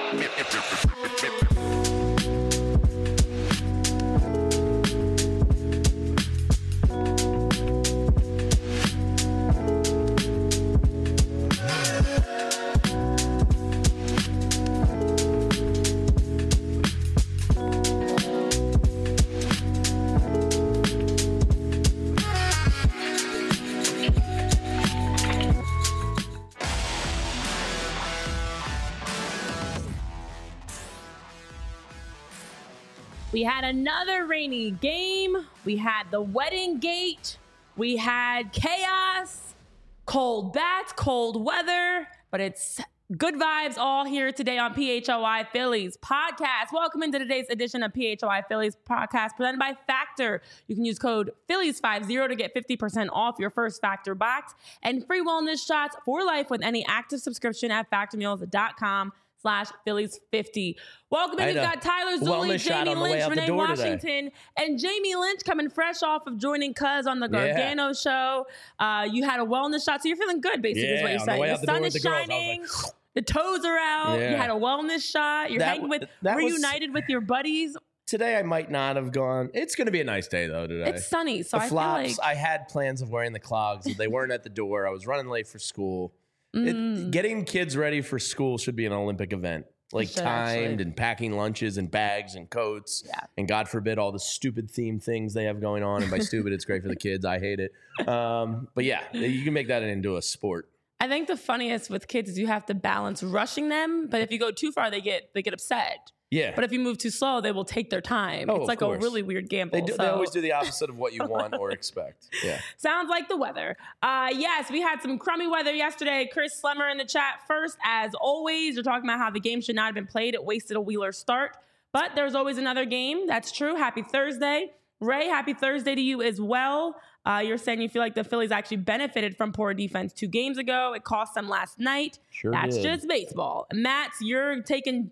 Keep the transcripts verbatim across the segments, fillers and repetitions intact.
We had another rainy game. We had the wedding gate. We had chaos, cold bats, cold weather, but it's good vibes all here today on P H O I Phillies podcast. Welcome into today's edition of P H O I Phillies podcast presented by Factor. You can use code Phillies fifty to get fifty percent off your first Factor box and free wellness shots for life with any active subscription at factor meals dot com slash Phillies fifty. Welcome in. We've got Tyler Zulli, Jamie Lynch, Renee Washington, today. And Jamie Lynch coming fresh off of joining Cuz on the Gargano yeah. show. Uh, you had a wellness shot, so you're feeling good, basically, yeah, is what you're saying. The, the sun is the shining. Girls, like, the toes are out. Yeah. You had a wellness shot. You're that, hanging with, reunited was, with your buddies. Today I might not have gone. It's going to be a nice day, though, today. It's sunny, so the I flops, feel like... I had plans of wearing the clogs. They weren't at the door. I was running late for school. Mm. It, getting kids ready for school should be an Olympic event. Like should, timed actually. and packing lunches and bags and coats. Yeah. And God forbid all the stupid theme things they have going on. And by stupid, it's great for the kids. I hate it. Um, but yeah, you can make that into a sport. I think the funniest with kids is you have to balance rushing them. But if you go too far, they get they get upset. Yeah. But if you move too slow, they will take their time. Oh, it's like a really weird gamble. They, do, so. they always do the opposite of what you want or expect. Yeah. Sounds like the weather. Uh, yes, we had some crummy weather yesterday. Chris Slemmer in the chat first. As always, you're talking about how the game should not have been played. It wasted a Wheeler start. But there's always another game. That's true. Happy Thursday. Ray, happy Thursday to you as well. Uh, you're saying you feel like the Phillies actually benefited from poor defense two games ago. It cost them last night. Sure That's did. just baseball. Matt, you're taking...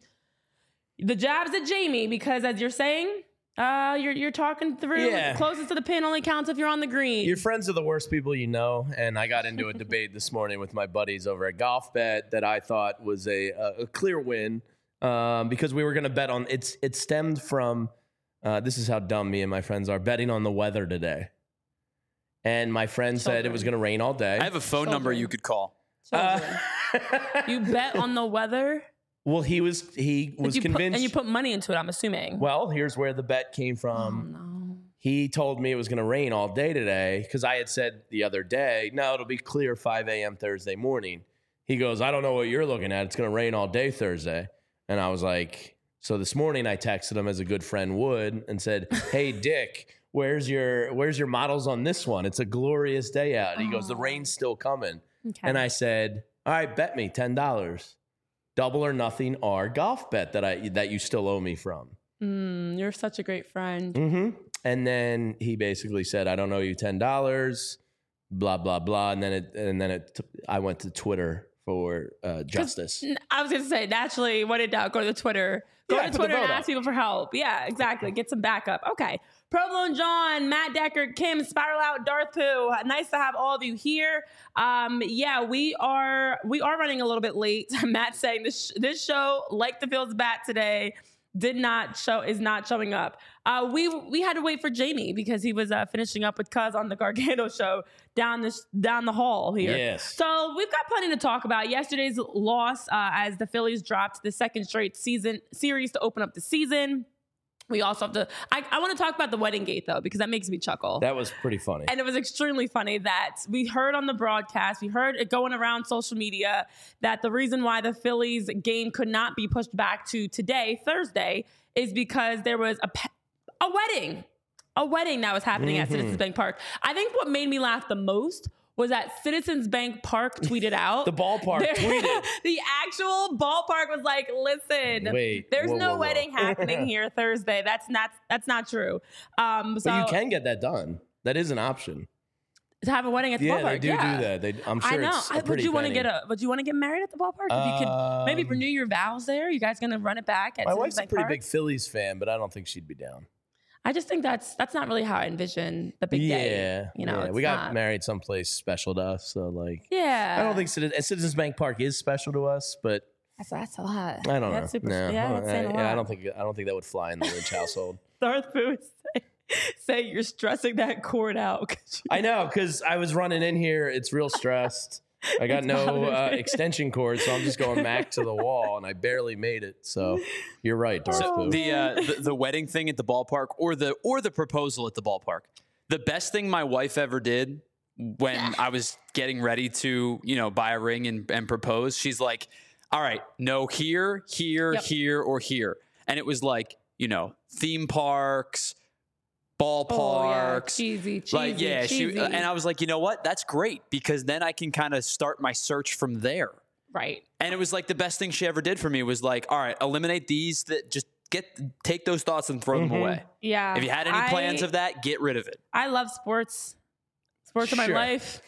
the jabs at Jamie because, as you're saying, uh, you're you're talking through. Yeah. Closest to the pin only counts if you're on the green. Your friends are the worst people you know, and I got into a debate this morning with my buddies over at Golf Bet that I thought was a a, a clear win um, because we were going to bet on it's. It stemmed from uh, this is how dumb me and my friends are betting on the weather today, and my friend Children. said it was going to rain all day. I have a phone Children. number you could call. Uh, you bet on the weather. Well, he was he was you convinced, put, and you put money into it. I'm assuming. Well, here's where the bet came from. Oh, no. He told me it was going to rain all day today because I had said the other day, no, it'll be clear five a.m. Thursday morning. He goes, I don't know what you're looking at. It's going to rain all day Thursday. And I was like, so this morning I texted him as a good friend would and said, hey, Dick, where's your where's your models on this one? It's a glorious day out. And he oh. goes, the rain's still coming. Okay. And I said, all right, bet me ten dollars. Double or nothing our golf bet that I that you still owe me from. Mm, you're such a great friend. Mm-hmm. And then he basically said, I don't owe you ten dollars, blah, blah, blah. And then it, and then it, t- I went to Twitter for uh, justice. I was going to say, naturally, what did doubt? Go to the Twitter. Go yeah, to Twitter and ask people for help. Yeah, exactly. Get some backup. Okay. Provolone John, Matt Deckard, Kim, Spiral Out, Darth Pooh. Nice to have all of you here. Um, yeah, we are we are running a little bit late. Matt saying this this show, like the Phil's bat today, did not show is not showing up. Uh, we we had to wait for Jamie because he was uh, finishing up with Cuz on the Gargano show down this down the hall here. Yes. So we've got plenty to talk about. Yesterday's loss uh, as the Phillies dropped the second straight season series to open up the season. We also have to, I, I want to talk about the wedding gate, though, because that makes me chuckle. That was pretty funny. And it was extremely funny that we heard on the broadcast, we heard it going around social media, that the reason why the Phillies game could not be pushed back to today, Thursday, is because there was a, a wedding, a wedding that was happening mm-hmm. at Citizens Bank Park. I think what made me laugh the most was that Citizens Bank Park tweeted out. The ballpark tweeted. The actual ballpark was like, listen, Wait, there's whoa, no whoa, whoa. wedding happening here Thursday. That's not that's not true. Um, so but you can get that done. That is an option. To have a wedding at the yeah, ballpark. They do yeah, do that. They, I'm sure I know. it's a I, pretty would you want to penny. get a? Would you want to get married at the ballpark? If you could maybe Um, renew your vows there. You guys gonna run it back at My Citizens wife's a Bank pretty Park? big Phillies fan, but I don't think she'd be down. I just think that's that's not really how I envision the big yeah, day. You know, yeah. it's we got not. married someplace special to us, so like, Yeah, I don't think Citizens, Citizens Bank Park is special to us, but That's, that's a lot. I don't that's know. Super, no. Yeah, that's I, saying a lot. yeah, I don't think I don't think that would fly in the Lynch household. Darth Boo say, say you're stressing that cord out. I know, because I was running in here. It's real stressed. I got It's no uh, bothering. extension cord, so I'm just going back to the wall, and I barely made it. So you're right, Darth Oh. Boo. The, uh, the the wedding thing at the ballpark, or the or the proposal at the ballpark. The best thing my wife ever did when I was getting ready to, you know, buy a ring and, and propose, she's like, "All right, no here, here, Yep. here, or here," and it was like, you know, theme parks, ballparks. Oh, yeah. Cheesy, cheesy, Like, yeah, cheesy. she, and I was like, you know what? That's great, because then I can kind of start my search from there. Right. And it was like the best thing she ever did for me was like, all right, eliminate these, that just get, take those thoughts and throw Mhm. them away. Yeah. If you had any I- plans of that, get rid of it. I love sports. Sports are my Sure. life.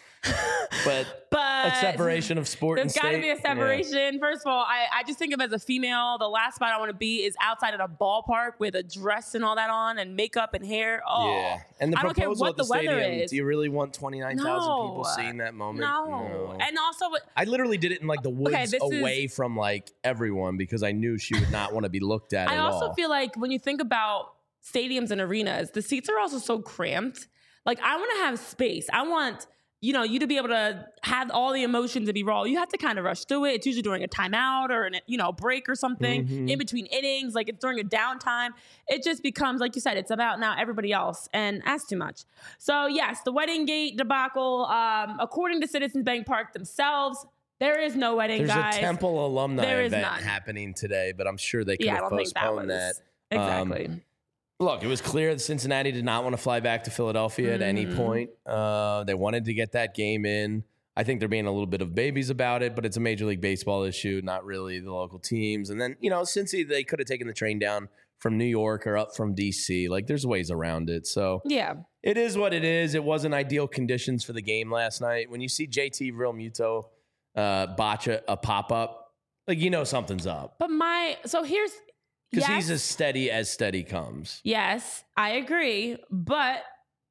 But but a separation of sport and There's state. got to be a Yeah. separation. First of all, I, I just think of as a female, the last spot I want to be is outside at a ballpark with a dress and all that on and makeup and hair. Oh, Yeah, and the I don't care proposal what at the, the weather stadium. is. Do you really want twenty-nine thousand No. people seeing that moment? No. And also, I literally did it in like the woods Okay, this is- away from like everyone because I knew she would not want to be looked at I at also all. feel like when you think about stadiums and arenas, the seats are also so cramped. Like, I want to have space. I want, you know, you to be able to have all the emotions and be raw. You have to kind of rush through it. It's usually during a timeout or an, you know, break or something Mhm. in between innings. Like, it's during a downtime. It just becomes, like you said, it's about now everybody else, and that's too much. So yes, the wedding gate debacle. Um, according to Citizens Bank Park themselves, there is no wedding, There's guys. a Temple alumni There is event none. happening today, but I'm sure they could Yeah, I have don't think that postponed was that. exactly. Um, Look, it was clear that Cincinnati did not want to fly back to Philadelphia at any Mhm. point. Uh, they wanted to get that game in. I think they're being a little bit of babies about it, but it's a Major League Baseball issue, not really the local teams. And then, you know, Cincy, they could have taken the train down from New York or up from D C. Like, there's ways around it. So yeah. it is what it is. It wasn't ideal conditions for the game last night. When you see J T Real Muto uh, botch a, a pop-up, like, you know something's up. But my so here's Because yes, he's as steady as steady comes. yes, I agree. But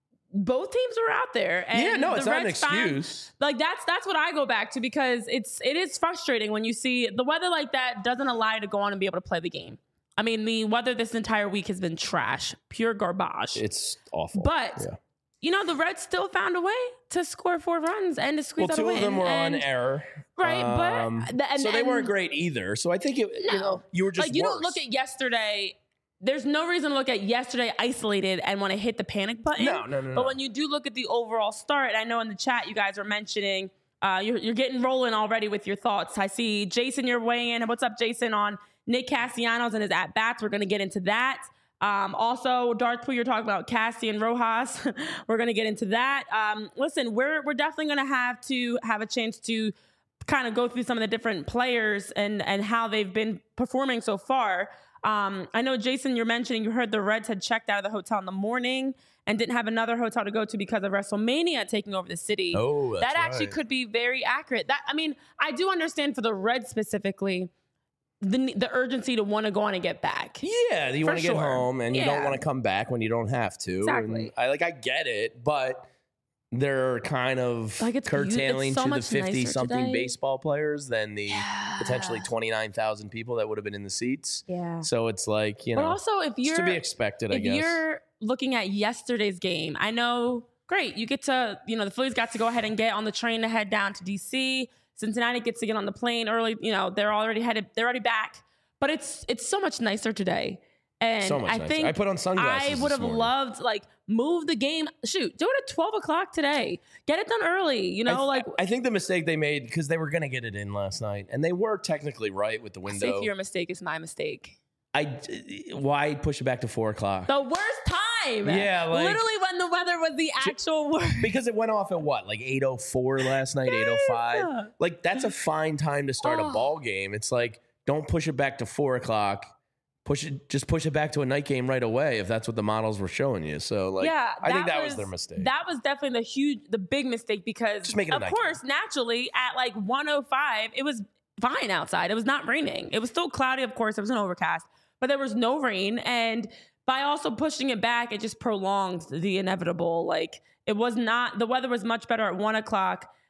both teams were out there. And yeah, no, it's the not an Reds found- excuse. like that's that's what I go back to because it's it is frustrating when you see the weather like that doesn't allow you to go on and be able to play the game. I mean, the weather this entire week has been trash, pure garbage. It's awful. but yeah. you know, the Reds still found a way to score four runs and to squeeze Well, out a two win. of them were on And- error. Right, Um, but the- and, so they and- weren't great either. So I think it, you No. know, you were just like you worse. don't look at yesterday. There's no reason to look at yesterday isolated and want to hit the panic button. No, no, no, But no. when you do look at the overall start, I know in the chat you guys are mentioning uh, you're, you're getting rolling already with your thoughts. I see Jason, you're weighing in. What's up, Jason, on Nick Castellanos and his at bats? We're going to get into that. Um, also, Darth Pooh, you're talking about Cassie and Rojas. We're going to get into that. Um, listen, we're we're definitely going to have to have a chance to kind of go through some of the different players and and how they've been performing so far. Um, I know, Jason, you're mentioning you heard the Reds had checked out of the hotel in the morning and didn't have another hotel to go to because of WrestleMania taking over the city. Oh, that's that actually right. could be very accurate. That I mean, I do understand for the Reds specifically the the urgency to want to go on and get back. Yeah, you For want to get sure. home and you don't Yeah. want to come back when you don't have to. Exactly. And I like I get it, but they're kind of Like, it's beau- it's curtailing so to the much nicer fifty something today. baseball players than the potentially Yeah. twenty-nine thousand people that would have been in the seats. Yeah. So it's like, you But know, also, if it's you're to be expected, I if guess. you're looking at yesterday's game, I know, great, you get to, you know, the Phillies got to go ahead and get on the train to head down to D C. Cincinnati gets to get on the plane early. You know, they're already headed, they're already back. But it's it's so much nicer today. And So much I nicer. think I put on sunglasses I this would have morning. loved like move the game. Shoot, do it at twelve o'clock today. Get it done early. You I, know, th- like I think the mistake they made because they were going to get it in last night, and they were technically right with the say window. if your mistake is my mistake. I why push it back to four o'clock? The worst time. Yeah, like- literally when the weather was the actual worst. Because it went off at what, like eight oh four last night, eight oh five. Yes. Like that's a fine time to start a Oh. ball game. It's like don't push it back to four o'clock. Push it, just push it back to a night game right away if that's what the models were showing you. So like, yeah, I think that was, their mistake. That was definitely the huge, the big mistake because, Just make it a of night course, naturally at like one oh five, it was fine outside. It was not raining. It was still cloudy, of course. It was an overcast, but there was no rain. And by also pushing it back, it just prolonged the inevitable. Like it was not, the weather was much better at one o'clock.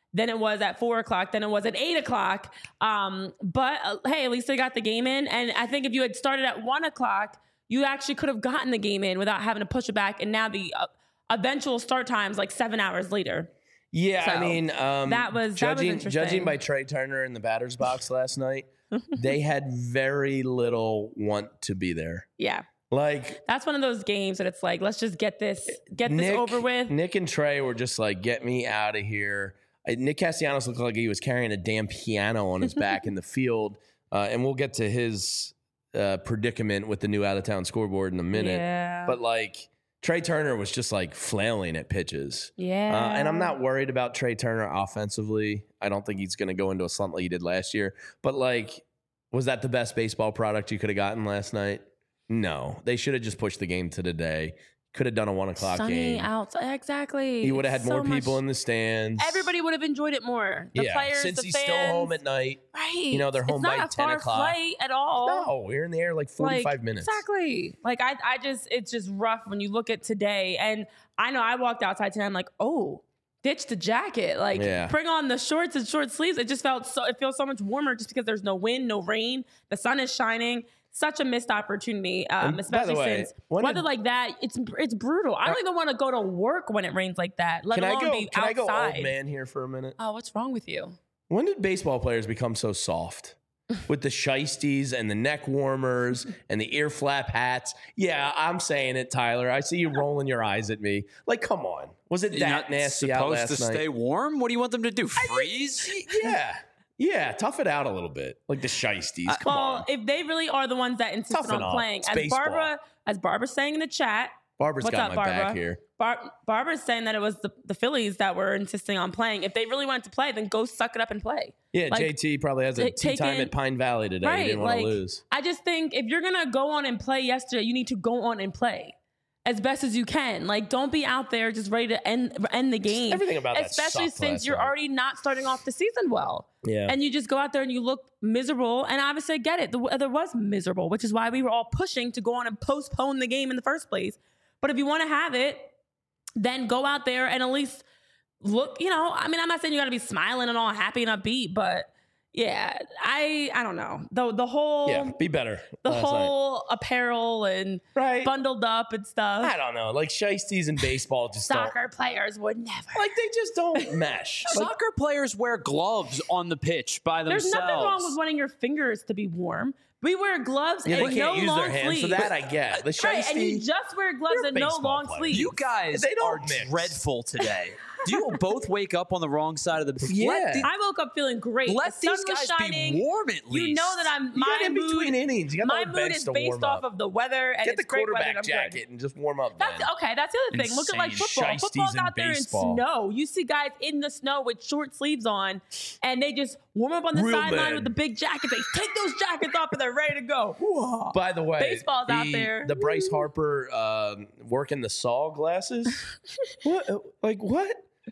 than it was at four o'clock, than it was at eight o'clock. Um, but uh, hey, at least they got the game in. And I think if you had started at one o'clock, you actually could have gotten the game in without having to push it back. And now the uh, eventual start time's like seven hours later. Yeah, So, I mean, um, that was- that was judging, interesting. judging by Trey Turner in the batter's box last night, they had very little want to be there. Yeah. Like, That's one of those games that it's like, let's just get this, get Nick, this over with. Nick and Trey were just like, get me out of here. Uh, Nick Castellanos looked like he was carrying a damn piano on his back in the field. Uh, and we'll get to his uh, predicament with the new out-of-town scoreboard in a minute. Yeah. But, like, Trey Turner was just, like, flailing at pitches. Yeah. Uh, and I'm not worried about Trey Turner offensively. I don't think he's going to go into a slump like he did last year. But, like, was that the best baseball product you could have gotten last night? No. They should have just pushed the game to today. Could have done a one o'clock Sunny game. outside. Exactly. He would have had So more people much- in the stands. Everybody would have enjoyed it more. The yeah, players, since the he's fans. still home at night. Right. You know, they're home it's by not a ten far o'clock. flight at all. No, we're in the air like forty-five Like, minutes. Exactly. Like I, I just, it's just rough when you look at today. And I know I walked outside today. I'm like, oh, ditch the jacket. Like Yeah. bring on the shorts and short sleeves. It just felt so. It feels so much warmer just because there's no wind, no rain. The sun is shining. Such a missed opportunity, um, And by especially the way, since when weather did- like that. It's it's brutal. I don't even want to go to work when it rains like that. Let Can I alone go? be Can I outside. go old man here for a minute? Oh, what's wrong with you? When did baseball players become so soft? With the shiesties and the neck warmers and the ear flap hats. Yeah, I'm saying it, Tyler. I see you rolling your eyes at me. Like, come on. Was it You're that not nasty out supposed last to night? stay warm? What do you want them to do? Freeze? Yeah. Yeah, tough it out a little bit. Like the shiesties. Come Well, on. if they really are the ones that insisted Toughen on up. playing, It's as baseball. Barbara, as Barbara's saying in the chat, Barbara's what's got up, my back Barbara? here. Bar- Barbara's saying that it was the, the Phillies that were insisting on playing. If they really wanted to play, then go suck it up and play. Yeah, Like, J T probably has a ta- tea time taking- at Pine Valley today. Right, He didn't want like, to lose. I just think if you're gonna go on and play yesterday, you need to go on and play as best as you can. Like, don't be out there just ready to end end the game. Everything about that especially sucked since last you're night. already not starting off the season well. Yeah. And you just go out there and you look miserable. And obviously, I get it. The weather was miserable, which is why we were all pushing to go on and postpone the game in the first place. But if you want to have it, then go out there and at least look, you know, I mean, I'm not saying you got to be smiling and all happy and upbeat, but yeah, I I don't know. The the whole yeah, be better. the last night. whole apparel and Right. bundled up and stuff. I don't know. Like shiesties in baseball just don't. Soccer players would never. Like they just don't mesh. Like, Soccer players wear gloves on the pitch by There's themselves. nothing wrong with wanting your fingers to be warm. We wear gloves yeah, and they can't no use long their hands, sleeves. so that I get. The right, and you shiesty. just wear gloves You're a and no baseball long player. sleeves. You guys They don't are mix. dreadful today. Do you both wake up on the wrong side of the bed? Yeah. Let, the- I woke up feeling great. let the sun these was guys shining. be warm at least. You know that I'm You my got in mood. between innings. You got My the mood bench is to based warm off up. of the weather and Get it's the great weather. quarterback and I'm good. jacket and just warm up. That's man. okay. That's the other thing. Look at like Insane football. shiesties Football's in out there baseball. in snow. You see guys in the snow with short sleeves on, and they just warm up on the Real sideline men. with the big jackets. They take those jackets off and they're ready to go. Whoa. By the way, Baseball's the, out there. The Bryce Harper um, working the saw glasses. What? Like what?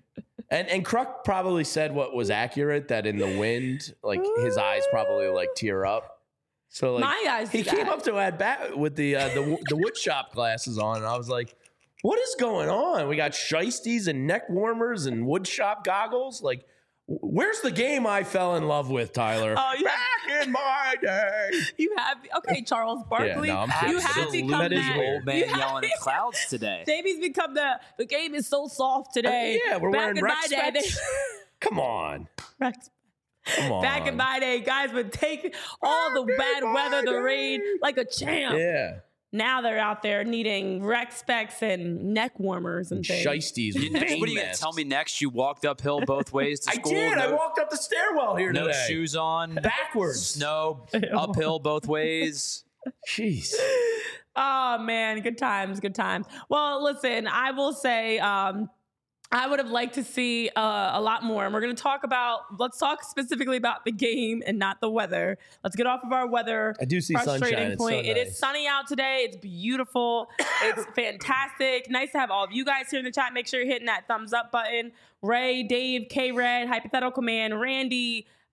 And and Kruk probably said what was accurate, that in the wind, like his eyes probably like tear up. So like My eyes he do came that. up to at bat with the uh, the wo- the wood shop glasses on, and I was like, "What is going on? We got shiesties and neck warmers and wood shop goggles. Like, w- where's the game I fell in love with, Tyler? Oh, you Back in my day." You have okay, Charles Barkley. no, I'm kidding. you have Absolutely. become That is that. weird. Old man You have- yelling at clouds today. Davey's become the the game is so soft today. yeah, we're Back wearing in rec my day, they- specs. Come on, come on. Back in my day, guys would take all the bad weather, the rain, like a champ. yeah, Now they're out there needing rec specs and neck warmers and things. shiesties. You- with what are pain you going to masks. tell me next? You walked uphill both ways to I school? did. I No, walked up the stairwell here no today. shoes on. Backwards. Snow, uphill both ways. Jeez. Oh man, good times, good times. Well, listen, I will say, um, I would have liked to see uh, a lot more. And we're going to talk about, let's talk specifically about the game and not the weather. Let's get off of our weather I do see sunshine. frustrating It's point. so It is nice. sunny out today. It's beautiful. It's fantastic. Nice to have all of you guys here in the chat. Make sure you're hitting that thumbs up button. Ray, Dave, K-Red, Hypothetical Man, Randy,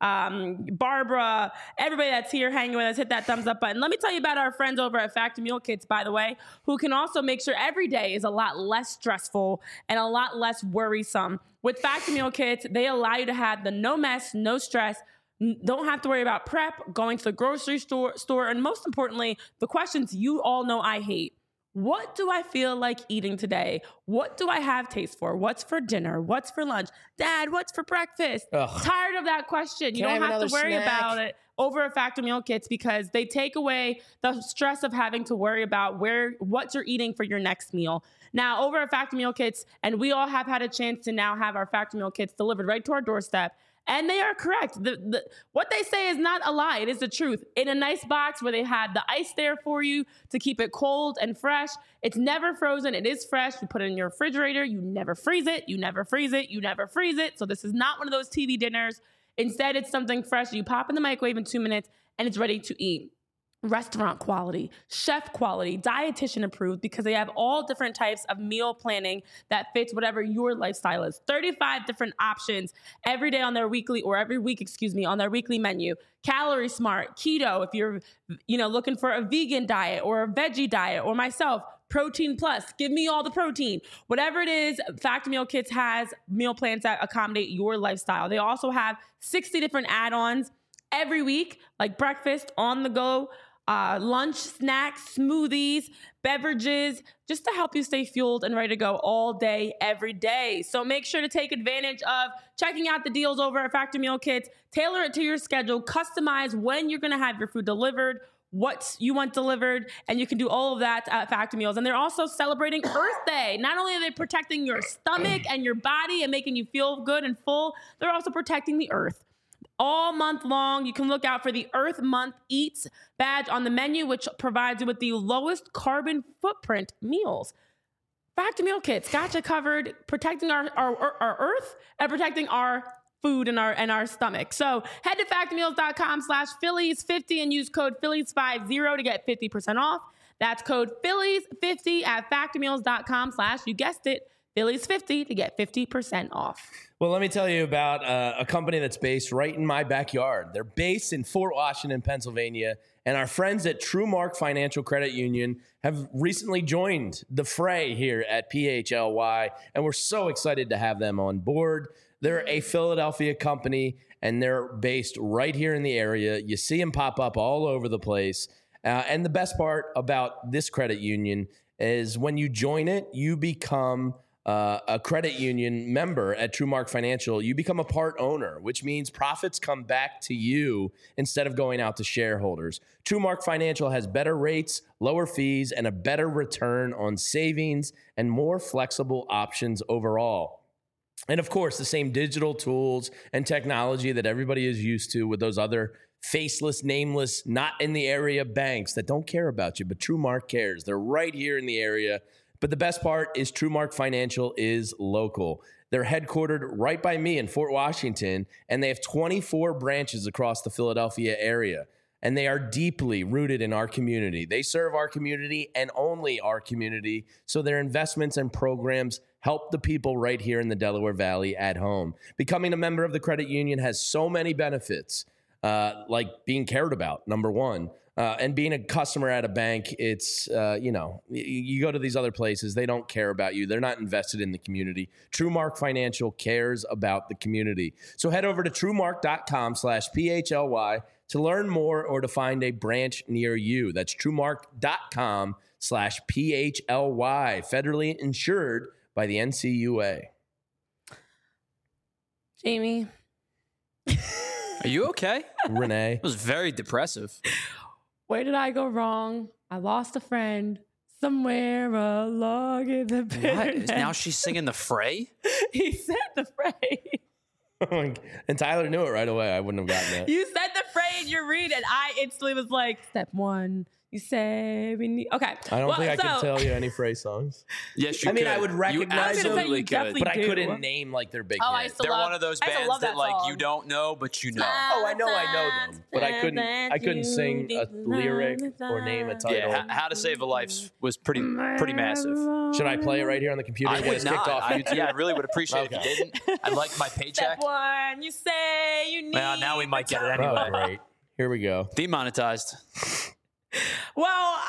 um, Barbara, everybody that's here hanging with us, hit that thumbs up button. Let me tell you about our friends over at Factor Meal Kits, by the way, who can also make sure every day is a lot less stressful and a lot less worrisome. With Factor Meal Kits, they allow you to have the no mess, no stress, don't have to worry about prep, going to the grocery store, store, and most importantly, the questions you all know I hate. What do I feel like eating today? What do I have taste for? What's for dinner? What's for lunch? Dad, what's for breakfast? Ugh. Tired of that question. You Can I don't have have to another worry snack? about it over at Factor Meal Kits because they take away the stress of having to worry about where what you're eating for your next meal. Now, over at Factor Meal Kits, and we all have had a chance to now have our Factor Meal Kits delivered right to our doorstep. And they are correct. The, the, what they say is not a lie. It is the truth. In a nice box where they had the ice there for you to keep it cold and fresh. It's never frozen. It is fresh. You put it in your refrigerator. You never freeze it. You never freeze it. You never freeze it. So this is not one of those T V dinners. Instead, it's something fresh. You pop in the microwave in two minutes and it's ready to eat. Restaurant quality, chef quality, dietitian approved because they have all different types of meal planning that fits whatever your lifestyle is. thirty-five different options every day on their weekly or every week, excuse me, on their weekly menu. Calorie Smart, keto, if you're, you know, looking for a vegan diet or a veggie diet, or myself, Protein Plus, give me all the protein. Whatever it is, Factor Meal Kits has meal plans that accommodate your lifestyle. They also have sixty different add-ons every week, like breakfast, on the go, Uh, lunch, snacks, smoothies, beverages, just to help you stay fueled and ready to go all day, every day. So make sure to take advantage of checking out the deals over at Factor Meal Kits. Tailor it to your schedule. Customize when you're going to have your food delivered, what you want delivered, and you can do all of that at Factor Meals. And they're also celebrating Earth Day. Not only are they protecting your stomach and your body and making you feel good and full, they're also protecting the earth. All month long, you can look out for the Earth Month Eats badge on the menu, which provides you with the lowest carbon footprint meals. Factor Meal Kits got you covered, protecting our, our, our earth and protecting our food and our and our stomach. So head to factormeals.com slash Phillies fifty and use code Phillies fifty to get fifty percent off. That's code Phillies fifty at factormeals.com slash, you guessed it, Phillies fifty to get fifty percent off. Well, let me tell you about uh, a company that's based right in my backyard. They're based in Fort Washington, Pennsylvania, and our friends at TrueMark Financial Credit Union have recently joined the fray here at P H L Y, and we're so excited to have them on board. They're a Philadelphia company, and they're based right here in the area. You see them pop up all over the place. Uh, and the best part about this credit union is when you join it, you become Uh, a credit union member at TrueMark Financial, you become a part owner, which means profits come back to you instead of going out to shareholders. TrueMark Financial has better rates, lower fees, and a better return on savings and more flexible options overall. And of course, the same digital tools and technology that everybody is used to with those other faceless, nameless, not in the area banks that don't care about you, but TrueMark cares. They're right here in the area. But the best part is TrueMark Financial is local. They're headquartered right by me in Fort Washington, and they have twenty-four branches across the Philadelphia area. And they are deeply rooted in our community. They serve our community and only our community, so their investments and programs help the people right here in the Delaware Valley at home. Becoming a member of the credit union has so many benefits, uh, like being cared about, number one. Uh, and being a customer at a bank, it's, uh, you know, you, you go to these other places, they don't care about you. They're not invested in the community. TrueMark Financial cares about the community. So head over to TrueMark.com slash PHLY to learn more or to find a branch near you. That's TrueMark.com slash PHLY, federally insured by the N C U A. Jamie. Are you okay? Renee. It was very depressive. Where did I go wrong? I lost a friend somewhere along in the bitterness. What? Now she's singing The Fray? He said the fray. And Tyler knew it right away. I wouldn't have gotten that. You said the fray in your read, and I instantly was like, step one, You say we need. Okay. I don't well, think I so, can tell you any Phrase songs. Yes, you I mean, could. I would You recognize them, absolutely you could. definitely but I do. couldn't name like their big Oh, I hits. used to They're love, one of those I used to bands love that, that like song. you don't know, but you know. Oh, I know, I know them, but I couldn't. I couldn't sing a lyric or name a title. Yeah, How to Save a Life was pretty pretty massive. Should I play it right here on the computer? I and get would us kicked not. off I, YouTube? yeah, I really would appreciate it if you didn't. I'd like my Step paycheck. one, you say you need. Well, now we might get it Oh, anyway. great. Here we go. Demonetized. Well,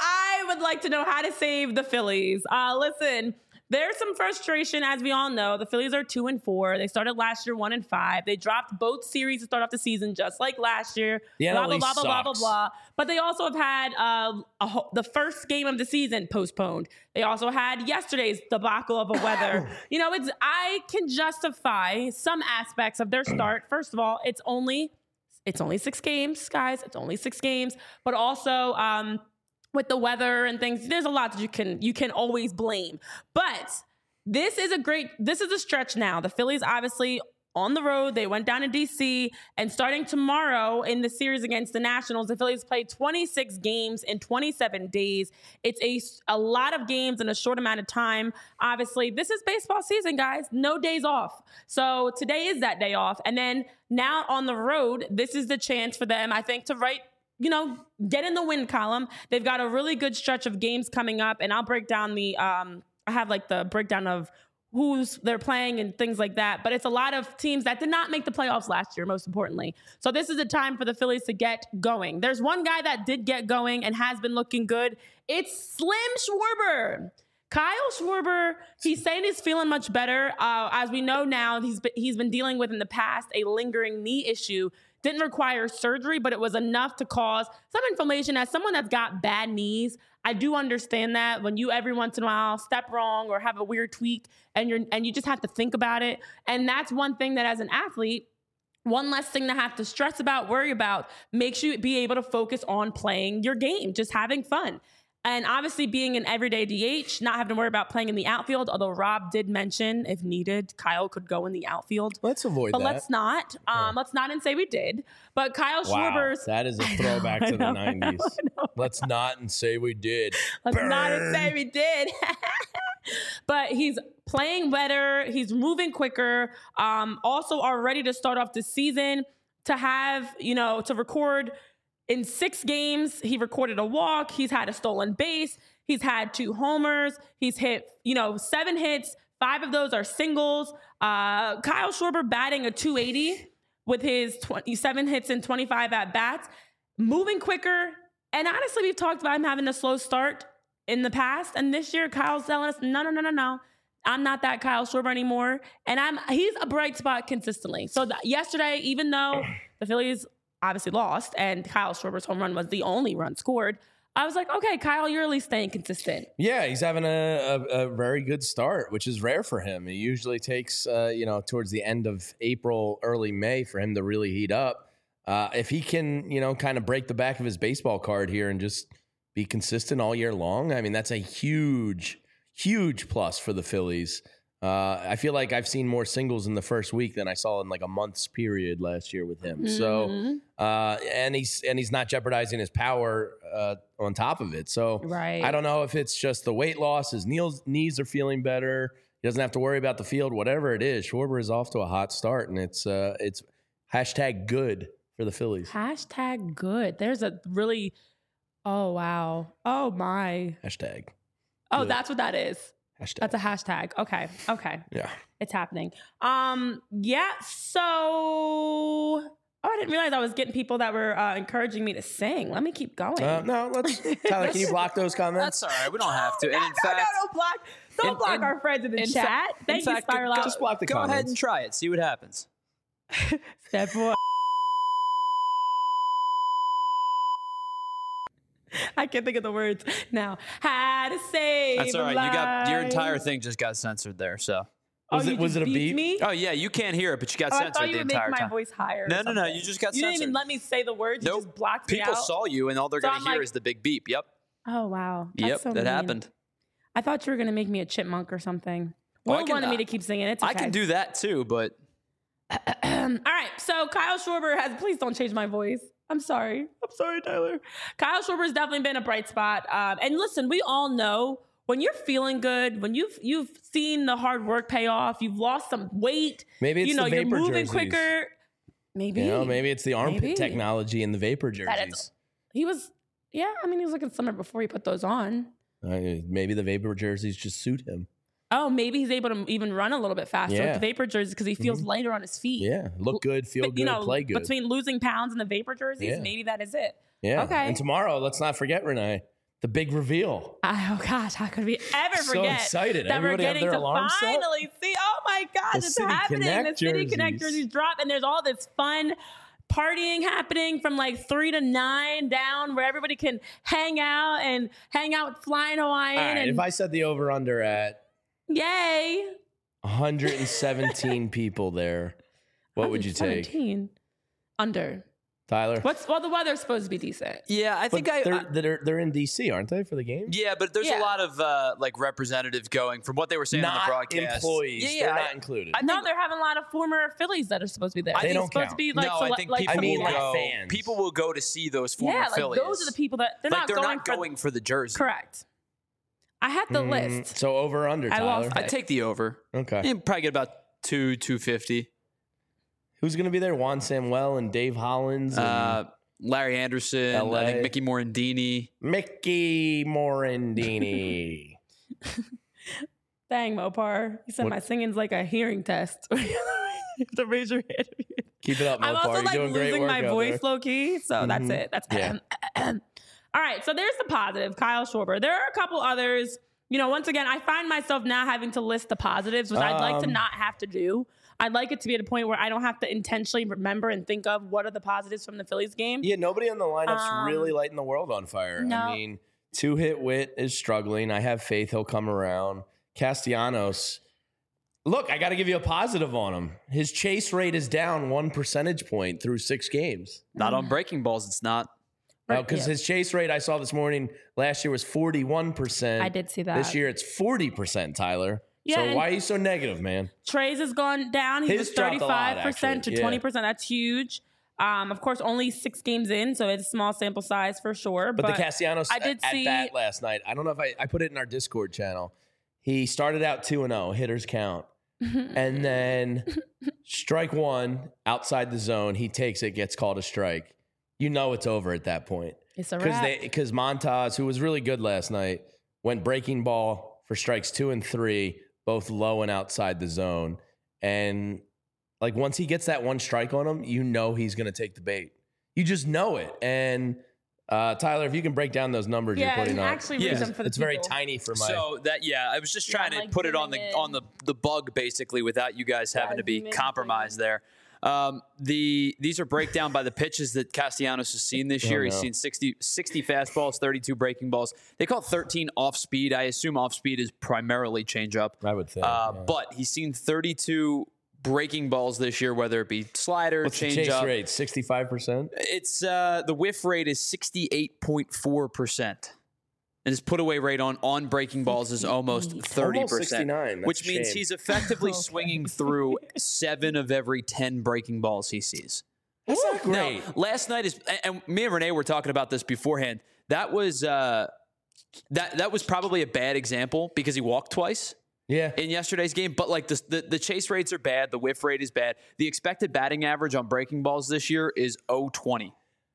I would like to know how to save the Phillies. Uh, listen, there's some frustration, as we all know. The Phillies are two and four. They started last year one and five. They dropped both series to start off the season, just like last year. The N blah L blah East blah blah blah blah sucks. blah. But they also have had uh, a ho- the first game of the season postponed. They also had yesterday's debacle of a weather. You know, it's I can justify some aspects of their start. First of all, it's only it's only six games, guys. It's only six games, but also. Um, with the weather and things, there's a lot that you can you can always blame. But this is a great, this is a stretch now. The Phillies obviously on the road, they went down to D C, and starting tomorrow in the series against the Nationals, the Phillies played twenty-six games in twenty-seven days. It's a, a lot of games in a short amount of time. Obviously, this is baseball season, guys. No days off. So today is that day off. And then now on the road, this is the chance for them, I think, to write you know, get in the win column. They've got a really good stretch of games coming up, and I'll break down the, um, I have like the breakdown of who's they're playing and things like that. But it's a lot of teams that did not make the playoffs last year, most importantly. So this is a time for the Phillies to get going. There's one guy that did get going and has been looking good. It's Slim Schwarber. Kyle Schwarber, he's saying he's feeling much better. Uh, as we know now, he's been, he's been dealing with in the past a lingering knee issue. Didn't require surgery, but it was enough to cause some inflammation. As someone that's got bad knees, I do understand that when you every once in a while step wrong or have a weird tweak and you're and you just have to think about it. And that's one thing that as an athlete, one less thing to have to stress about, worry about, makes you be able to focus on playing your game, just having fun. And obviously being an everyday D H, not having to worry about playing in the outfield, although Rob did mention if needed, Kyle could go in the outfield. Let's avoid but that. But let's not. Um, yeah. Let's not and say we did. But Kyle wow, Schwarber's... that is a throwback know, to the nineties. I know, I know. Let's not and say we did. Let's Burn. not and say we did. But he's playing better. He's moving quicker. Um, also are ready to start off the season to have, you know, to record... In six games, he recorded a walk. He's had a stolen base. He's had two homers. He's hit, you know, seven hits. Five of those are singles. Uh, Kyle Schwarber batting a two eighty with his twenty-seven hits and twenty-five at-bats. Moving quicker. And honestly, we've talked about him having a slow start in the past. And this year, Kyle's telling us, no, no, no, no, no. I'm not that Kyle Schwarber anymore. And I'm he's a bright spot consistently. So th- yesterday, even though the Phillies obviously lost, and Kyle Schwarber's home run was the only run scored, I was like, okay, Kyle, you're at least staying consistent. Yeah, he's having a, a, a very good start, which is rare for him. It usually takes, uh, you know, towards the end of April, early May for him to really heat up. Uh, if he can, you know, kind of break the back of his baseball card here and just be consistent all year long, I mean, that's a huge, huge plus for the Phillies. Uh, I feel like I've seen more singles in the first week than I saw in like a month's period last year with him. Mm-hmm. So, uh, and he's and he's not jeopardizing his power uh, on top of it. So, right. I don't know if it's just the weight loss, his knees knees are feeling better. He doesn't have to worry about the field, whatever it is. Schwarber is off to a hot start, and it's uh, it's hashtag good for the Phillies. Hashtag good. There's a really, oh wow, oh my. Hashtag. Oh, good. That's what that is. Hashtag. That's a hashtag. Okay. Okay. Yeah. It's happening. Um, yeah. So, oh, I didn't realize I was getting people that were uh, encouraging me to sing. Let me keep going. Uh, no, let's, Tyler, can you block those comments? That's all right. We don't have to. No, And in no, fact, no, don't block, don't in, block in, our friends in the in chat. Fa- Thank in you, fact, Spiral go, Out. Just block the go comments. ahead and try it. See what happens. Step one. I can't think of the words now. How to save That's all right. a You got your life. entire thing just got censored there. So. Oh, Was you it was just it a beeped beep? Me? Oh yeah, you can't hear it, but you got Oh, I censored thought you the would make entire my time. voice higher. or No, no, no. something. You just got You censored. didn't even let me say the words. You Nope. just blocked me People out. saw you, and all they're So going I'm to hear like- is the big beep. Yep. Oh wow. That's Yep. so that mean. happened. I thought you were gonna make me a chipmunk or something. Oh, I Will can- wanted me to keep singing. It's okay. I can do that too, but All right. So Kyle Schwarber has. Please don't change my voice. I'm sorry. I'm sorry, Tyler. Kyle Schwarber's definitely been a bright spot. Um, and listen, we all know when you're feeling good, when you've you've seen the hard work pay off, you've lost some weight. Maybe it's you know the you're vapor moving jerseys. quicker. Maybe You know, maybe it's the armpit Maybe. technology in the vapor That jerseys. He was, yeah. I mean, he was looking summer before he put those on. Uh, maybe the vapor jerseys just suit him. Oh, maybe he's able to even run a little bit faster Yeah. with the vapor jerseys because he feels Mhm. lighter on his feet. Yeah, look good, feel But, good, you know, play good. between losing pounds and the vapor jerseys, Yeah. maybe that is it. Yeah. Okay. And tomorrow, let's not forget, Renee, the big reveal. Oh gosh, how could we ever So forget excited. that we're Everybody have getting their to alarm set? finally see? Oh my gosh, The it's City happening! Connect The City Connect jerseys. jerseys drop, and there's all this fun partying happening from like three to nine down, where everybody can hang out and hang out with Flying Hawaiian. All right, and if I set the over under at yay, one hundred seventeen people there, what would you take? seventeen under. Tyler? What's well, the weather's supposed to be decent. Yeah, I But think I. they're, I they're, they're in D C, aren't they, for the game? yeah, but there's Yeah. a lot of uh, like representatives going from what they were saying on the Not broadcast. employees. Yeah, yeah, they're I- not included. I No, think- they're having a lot of former Phillies that are supposed to be there. They It's don't supposed count. to be like, no, so, I think like people I mean, will like go. fans. People will go to see those former yeah, like Phillies. those are the people that they're like not they're going not for. going for the jersey. Correct. I had the Mm, list. So over under, I Tyler. lost I'd take the over. Okay. You probably get about two two fifty. Who's going to be there? Juan Samuel and Dave Hollins and Uh, Larry Anderson, L A. I think Mickey Morandini. Mickey Morandini. Dang, Mopar. You said What- my singing's like a hearing test. You have to raise your hand. Keep it up, Mopar. I'm also You're like doing great losing work my out voice there. low key. So that's Mhm. it. That's Yeah. All right. So there's the positive, Kyle Schwarber. There are a couple others. You know, once again, I find myself now having to list the positives, which I'd like to Um, not have to do. I'd like it to be at a point where I don't have to intentionally remember and think of what are the positives from the Phillies game. Yeah, nobody on the lineup's Um, really lighting the world on fire. no. I mean, two hit Witt is struggling. I have faith he'll come around. Castellanos, look, I got to give you a positive on him. His chase rate is down one percentage point through six games. Not on breaking balls. It's not. Right, Because yeah. his chase rate I saw this morning last year was forty-one percent. I did see that. This year it's forty percent, Tyler. Yeah, so and- why are you so negative, man? Trey's has gone down. He His was dropped a lot, thirty-five percent to actually, yeah. twenty percent. That's huge. Um, of course, only six games in, so it's a small sample size for sure. But, But, the Castellanos I did at see- bat last night. I don't know if I, I put it in our Discord channel. He started out two and oh, hitters count. And then strike one outside the zone. He takes it, gets called a strike. You know it's over at that point. it's a Because wrap. they because Montas, who was really good last night, went breaking ball for strikes two and three, both low and outside the zone. And like once he gets that one strike on him, you know he's gonna take the bait. You just know it. And uh, Tyler, if you can break down those numbers yeah, you're putting and up, actually Yeah. read them for the it's very people. tiny for my. So that yeah, I was just Yeah, trying I'm, to like, put it on the zooming in. on the the bug basically without you guys having Yeah, to be zoom in, compromised there. Um, the these are breakdown by the pitches that Castellanos has seen this Oh, year. He's no. seen sixty, sixty fastballs, thirty-two breaking balls. They call it thirteen off speed. I assume off speed is primarily changeup. I would think. Uh, yeah. But he's seen thirty-two breaking balls this year, whether it be slider, What's the chase changeup. rate? sixty-five percent? It's uh, the whiff rate is sixty-eight point four percent. And his put away rate on, on breaking balls is almost thirty Almost percent. sixty-nine. That's Which a means shame. he's effectively Okay. swinging through seven of every ten breaking balls he sees. That's not great. Now, last night is, and- and me and Renee were talking about this beforehand. That was uh, that that was probably a bad example because he walked twice yeah. in yesterday's game. But like the, the the chase rates are bad, the whiff rate is bad. The expected batting average on breaking balls this year is oh twenty.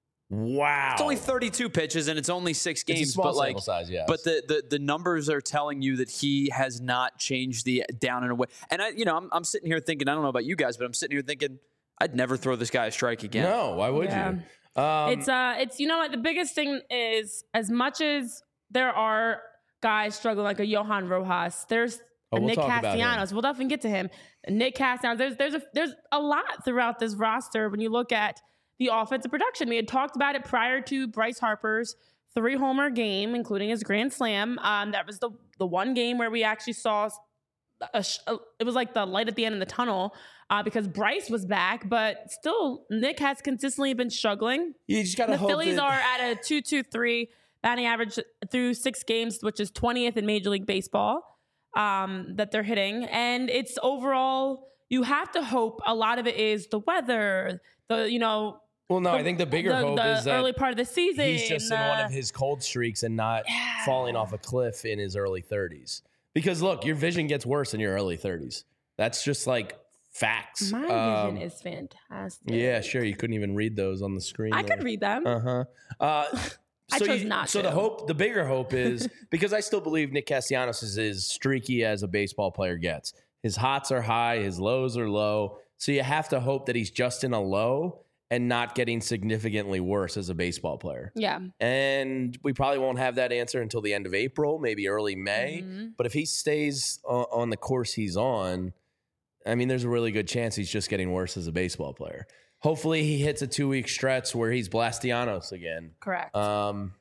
Wow. It's only thirty-two pitches and it's only six games, It's a small but like, sample size, yes. but the, the the numbers are telling you that he has not changed the down and away. And I, you know, I'm I'm sitting here thinking, I don't know about you guys, but I'm sitting here thinking, I'd never throw this guy a strike again. No, why would Yeah. you? Um, it's uh it's you know what the biggest thing is, as much as there are guys struggling like a Johan Rojas, there's Oh, a we'll Nick talk about him. Castellanos. We'll definitely get to him. Nick Castellanos. There's there's a there's a lot throughout this roster when you look at the offensive production. We had talked about it prior to Bryce Harper's three homer game, including his grand slam. Um, that was the the one game where we actually saw a, sh- a it was like the light at the end of the tunnel uh, because Bryce was back, but still Nick has consistently been struggling. you just got to The hope Phillies that- are at a two two three batting average through six games, which is twentieth in Major League Baseball um, that they're hitting. And it's overall, you have to hope a lot of it is the weather, the, you know, Well, no, I think the bigger the, hope the is that early part of the season. he's just in uh, one of his cold streaks and not Yeah. falling off a cliff in his early thirties. Because look, your vision gets worse in your early thirties. That's just like facts. My Um, vision is fantastic. Yeah, sure. You couldn't even read those on the screen. I there. could read them. Uh-huh. Uh I so chose you- not So to. the hope, the bigger hope is because I still believe Nick Castellanos is as streaky as a baseball player gets. His hots are high, his lows are low. So you have to hope that he's just in a low and not getting significantly worse as a baseball player. Yeah. And we probably won't have that answer until the end of April, maybe early May. Mhm. But if he stays o- on the course he's on, I mean, there's a really good chance he's just getting worse as a baseball player. Hopefully he hits a two-week stretch where he's Blastianos again. Correct. Um,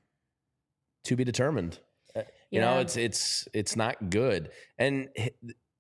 to be determined. Uh, You know, Yeah. it's it's it's not good. And h-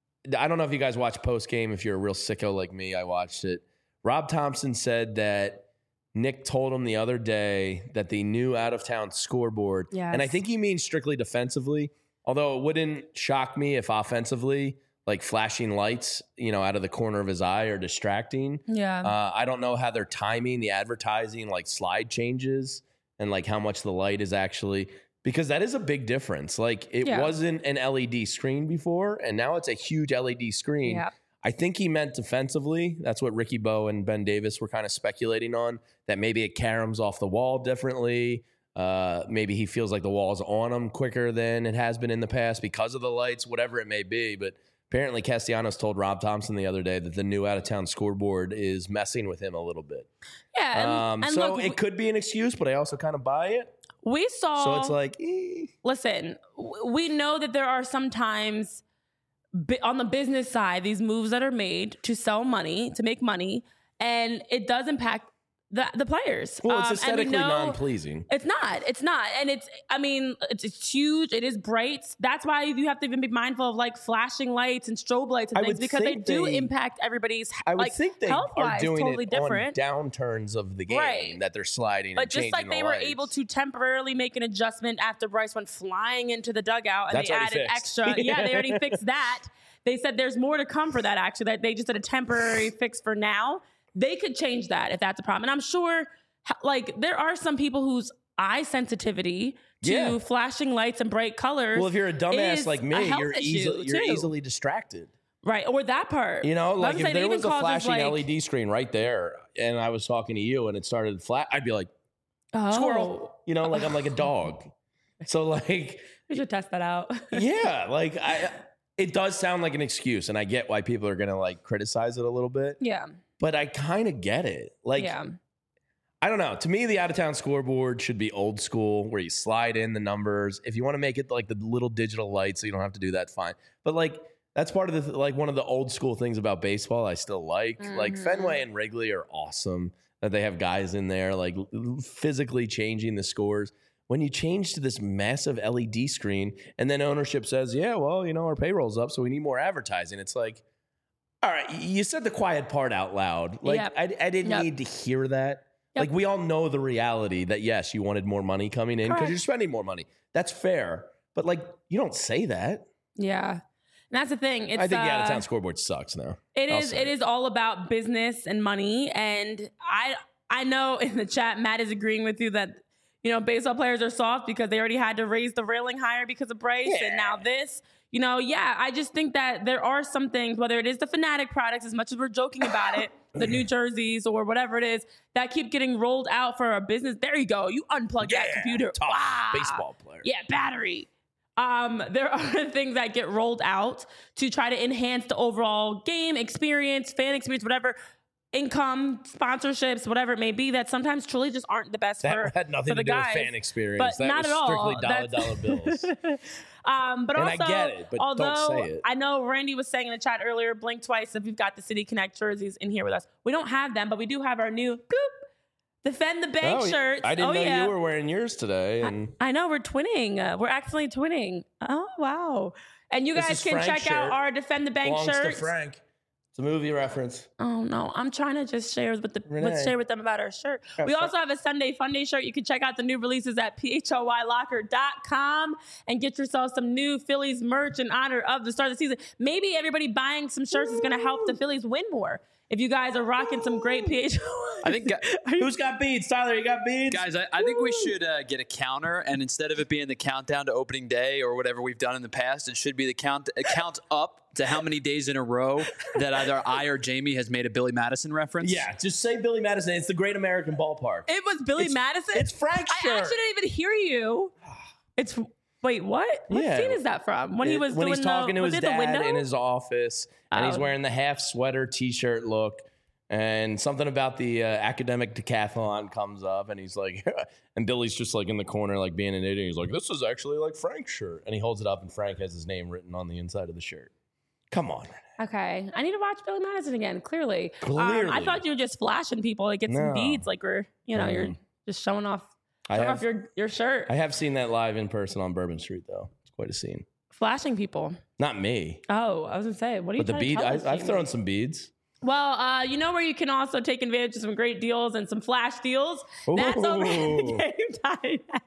I don't know if you guys watch post game. If you're a real sicko like me, I watched it. Rob Thompson said that Nick told him the other day that the new out of town scoreboard, Yes. and I think he means strictly defensively. Although it wouldn't shock me if offensively, like flashing lights, you know, out of the corner of his eye are distracting. yeah. Uh, I don't know how they're timing the advertising, like slide changes and like how much the light is actually, because that is a big difference. Like it Yeah. wasn't an L E D screen before, and now it's a huge L E D screen. Yeah. I think he meant defensively. That's what Ricky Bowe and Ben Davis were kind of speculating on, that maybe it caroms off the wall differently. Uh, maybe he feels like the wall's on him quicker than it has been in the past because of the lights, whatever it may be. But apparently Castellanos told Rob Thompson the other day that the new out-of-town scoreboard is messing with him a little bit. yeah. And, Um, and so look, it could be an excuse, but I also kind of buy it. we saw. So it's like, eh. listen, w- we know that there are sometimes bi- on the business side, these moves that are made to sell money, to make money, and it does impact the, the players. well, Um, it's and we aesthetically know- non-pleasing. It's not. It's not. And it's, I mean, it's, it's huge. It is bright. That's why you have to even be mindful of like flashing lights and strobe lights and I things would because they think do they- impact everybody's I would like, think they are health-wise, doing totally it different. on downturns of the game, Right. that they're sliding But and just changing like they the were lights. able to temporarily make an adjustment after Bryce went flying into the dugout and That's they already added fixed. extra. Yeah, they already fixed that. They said there's more to come for that, actually, that they just did a temporary fix for now. They could change that if that's a problem. And I'm sure, h- like, there are some people whose eye sensitivity to Yeah. flashing lights and bright colors. Well, if you're a dumbass is like a me, health you're issue, easily you're too. easily distracted. Right, or that part. You know, But like I'm if saying it there even was a causes, flashing like, L E D screen right there, and I was talking to you, and it started flat, I'd be like, oh, squirrel. You know, like I'm like a dog. So like, We should test that out. yeah, like I, it does sound like an excuse, and I get why people are gonna like criticize it a little bit, yeah, but I kind of get it. Like, yeah. I don't know. To me, the out of town scoreboard should be old school, where you slide in the numbers. If you want to make it like the little digital lights, so you don't have to do that, fine. But like that's part of the like one of the old school things about baseball I still like. Like Mhm. Fenway and Wrigley are awesome. That they have guys in there like l- physically changing the scores. When you change to this massive L E D screen, and then ownership says, "Yeah, well, you know, our payroll's up, so we need more advertising." It's like, all right, you said the quiet part out loud. Like Yep. I, I didn't Yep. need to hear that. Yep. Like we all know the reality that yes, you wanted more money coming in because Correct. you're spending more money. That's fair. But like you don't say that. Yeah. And that's the thing. It's, I think the uh, out of town scoreboard sucks now. It I'll is. say It is all about business and money. And I, I know in the chat, Matt is agreeing with you that you know baseball players are soft because they already had to raise the railing higher because of Bryce, Yeah. and now this. You know, yeah. I just think that there are some things, whether it is the Fanatic products, as much as we're joking about it, the New Jerseys or whatever it is, that keep getting rolled out for a business. There you go. You unplug that computer. tough Wow. baseball player. Yeah, battery. Um, there are things that get rolled out to try to enhance the overall game experience, fan experience, whatever, income, sponsorships, whatever it may be, that sometimes truly just aren't the best That for, had nothing for to the do guys. with fan experience. But that not was at all. strictly dollar That's- dollar bills. Um, but And I also, get it, but don't although say it. I know Randy was saying in the chat earlier, blink twice if you've got the City Connect jerseys in here with us. We don't have them, but we do have our new boop, Defend the Bank Oh, shirts. I didn't oh, know yeah. you were wearing yours today. And I know we're twinning. Uh, we're accidentally twinning. Oh wow! And you This guys is can Frank's check out shirt. our Defend the Bank belongs to shirts. Frank. It's a movie reference. Oh no, I'm trying to just share with the Renee. let's share with them about our shirt. Yeah, We Fra- also have a Sunday Funday shirt. You can check out the new releases at P H O Y locker dot com and get yourself some new Phillies merch in honor of the start of the season. Maybe everybody buying some shirts is going to help the Phillies win more. If you guys are rocking some great P H L Y. I think, Who's got beads? Tyler, you got beads? guys, I, I think we should uh, get a counter, and instead of it being the countdown to opening day or whatever we've done in the past, it should be the count a count up to how many days in a row that either I or Jamie has made a Billy Madison reference. Yeah, just say Billy Madison. It's the Great American Ballpark. It was Billy It's- Madison? it's Frank's I shirt. actually didn't even hear you. It's wait, what? What Yeah. scene is that from? When he It- was when doing he's talking the, to was his it the dad window? in his office, and he's Oh. wearing the half sweater T-shirt look, and something about the uh, academic decathlon comes up, and he's like, and Billy's just like in the corner, like being an idiot. He's like, "This is actually like Frank's shirt," and he holds it up, and Frank has his name written on the inside of the shirt. Come on. Okay, I need to watch Billy Madison again. Clearly, Um, Clearly. I thought you were just flashing people to get some No. beads, like we're, you know, you're Mm. just showing off, I showing have- off your your shirt, I have seen that live in person on Bourbon Street, though. It's quite a scene. flashing people. Not me, Oh, I was gonna say, what are you? but the trying to bead. tell I, us, I've Jamie? thrown some beads. Well, uh, you know where you can also take advantage of some great deals and some flash deals. That's over at the Ooh. Game Time app.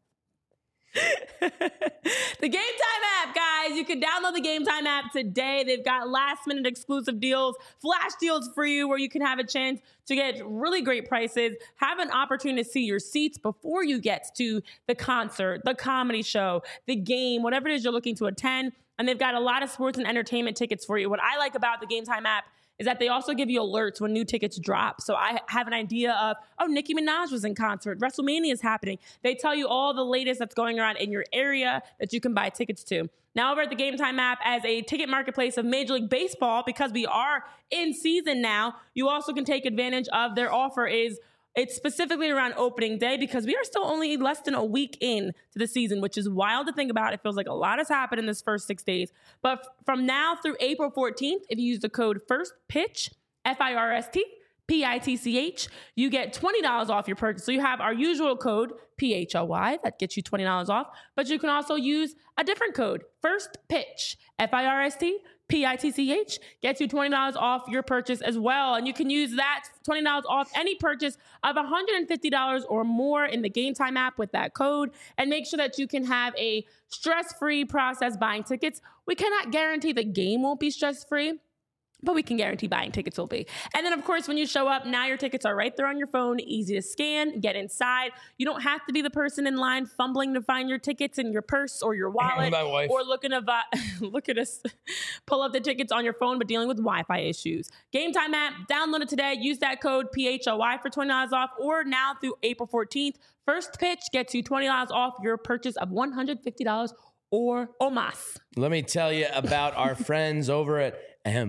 The Game Time app, guys. You can download the Game Time app today. They've got last minute exclusive deals, flash deals for you where you can have a chance to get really great prices, have an opportunity to see your seats before you get to the concert, the comedy show, the game, whatever it is you're looking to attend. And they've got a lot of sports and entertainment tickets for you. What I like about the Game Time app is that they also give you alerts when new tickets drop. So I have an idea of, oh, Nicki Minaj was in concert. WrestleMania is happening. They tell you all the latest that's going around in your area that you can buy tickets to. Now over at the Game Time app, as a ticket marketplace of Major League Baseball, because we are in season now, you also can take advantage of their offer is it's specifically around opening day because we are still only less than a week in to the season, which is wild to think about. It feels like a lot has happened in this first six days. But f- from now through April fourteenth, if you use the code FIRSTPITCH, F I R S T, P I T C H, you get twenty dollars off your purchase. So you have our usual code, P H L Y, that gets you twenty dollars off. But you can also use a different code, FIRSTPITCH, F I R S T, P I T C H, gets you twenty dollars off your purchase as well. And you can use that twenty dollars off any purchase of one hundred fifty dollars or more in the Game Time app with that code. And make sure that you can have a stress-free process buying tickets. We cannot guarantee the game won't be stress-free, but we can guarantee buying tickets will be. And then, of course, when you show up, now your tickets are right there on your phone, easy to scan, get inside. You don't have to be the person in line fumbling to find your tickets in your purse or your wallet, My wife. or looking to vi- look at us pull up the tickets on your phone, but dealing with Wi-Fi issues. Game Time app, download it today. Use that code P H L Y for twenty dollars off, or now through April fourteenth. First Pitch gets you twenty dollars off your purchase of one hundred fifty dollars or or más. Let me tell you about our friends over at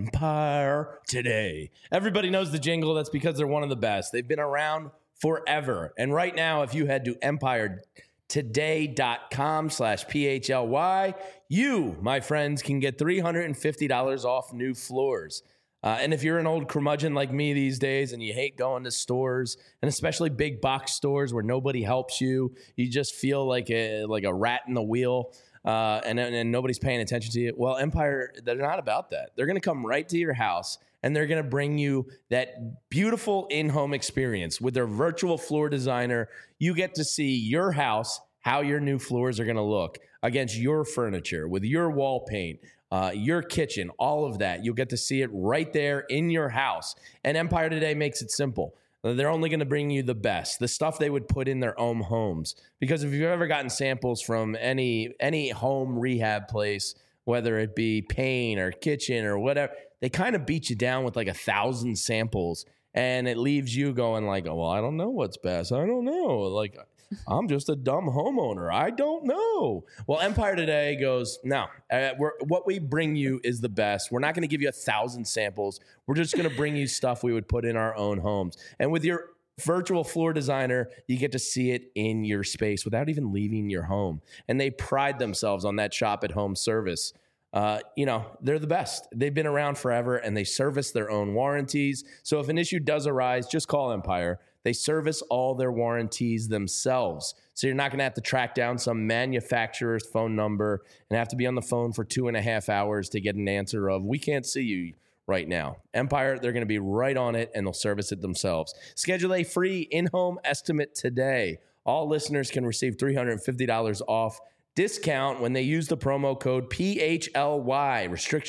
Empire Today. Everybody knows the jingle. That's because they're one of the best. They've been around forever. And right now, if you head to empire today dot com slash P H L Y, you, my friends, can get three hundred fifty dollars off new floors. Uh, and if you're an old curmudgeon like me these days and you hate going to stores, and especially big box stores where nobody helps you, you just feel like a, like a rat in the wheel, uh, and, and nobody's paying attention to you. Well, Empire, they're not about that. They're going to come right to your house, and they're going to bring you that beautiful in-home experience. With their virtual floor designer, you get to see your house, how your new floors are going to look against your furniture, with your wall paint, uh, your kitchen, all of that. You'll get to see it right there in your house. And Empire Today makes it simple. They're only going to bring you the best, the stuff they would put in their own homes. Because if you've ever gotten samples from any any home rehab place, whether it be paint or kitchen or whatever, they kind of beat you down with like a thousand samples, and it leaves you going like, oh, well, I don't know what's best. I don't know. Like, I'm just a dumb homeowner. I don't know. Well, Empire Today goes, no, uh, we're, what we bring you is the best. We're not going to give you a thousand samples. We're just going to bring you stuff we would put in our own homes. And with your virtual floor designer, you get to see it in your space without even leaving your home. And they pride themselves on that shop at home service. Uh, you know, they're the best. They've been around forever, and they service their own warranties. So if an issue does arise, just call Empire. They service all their warranties themselves. So you're not going to have to track down some manufacturer's phone number and have to be on the phone for two and a half hours to get an answer of, we can't see you right now. Empire, they're going to be right on it, and they'll service it themselves. Schedule a free in-home estimate today. All listeners can receive three hundred fifty dollars off discount when they use the promo code P H L Y. Restrictions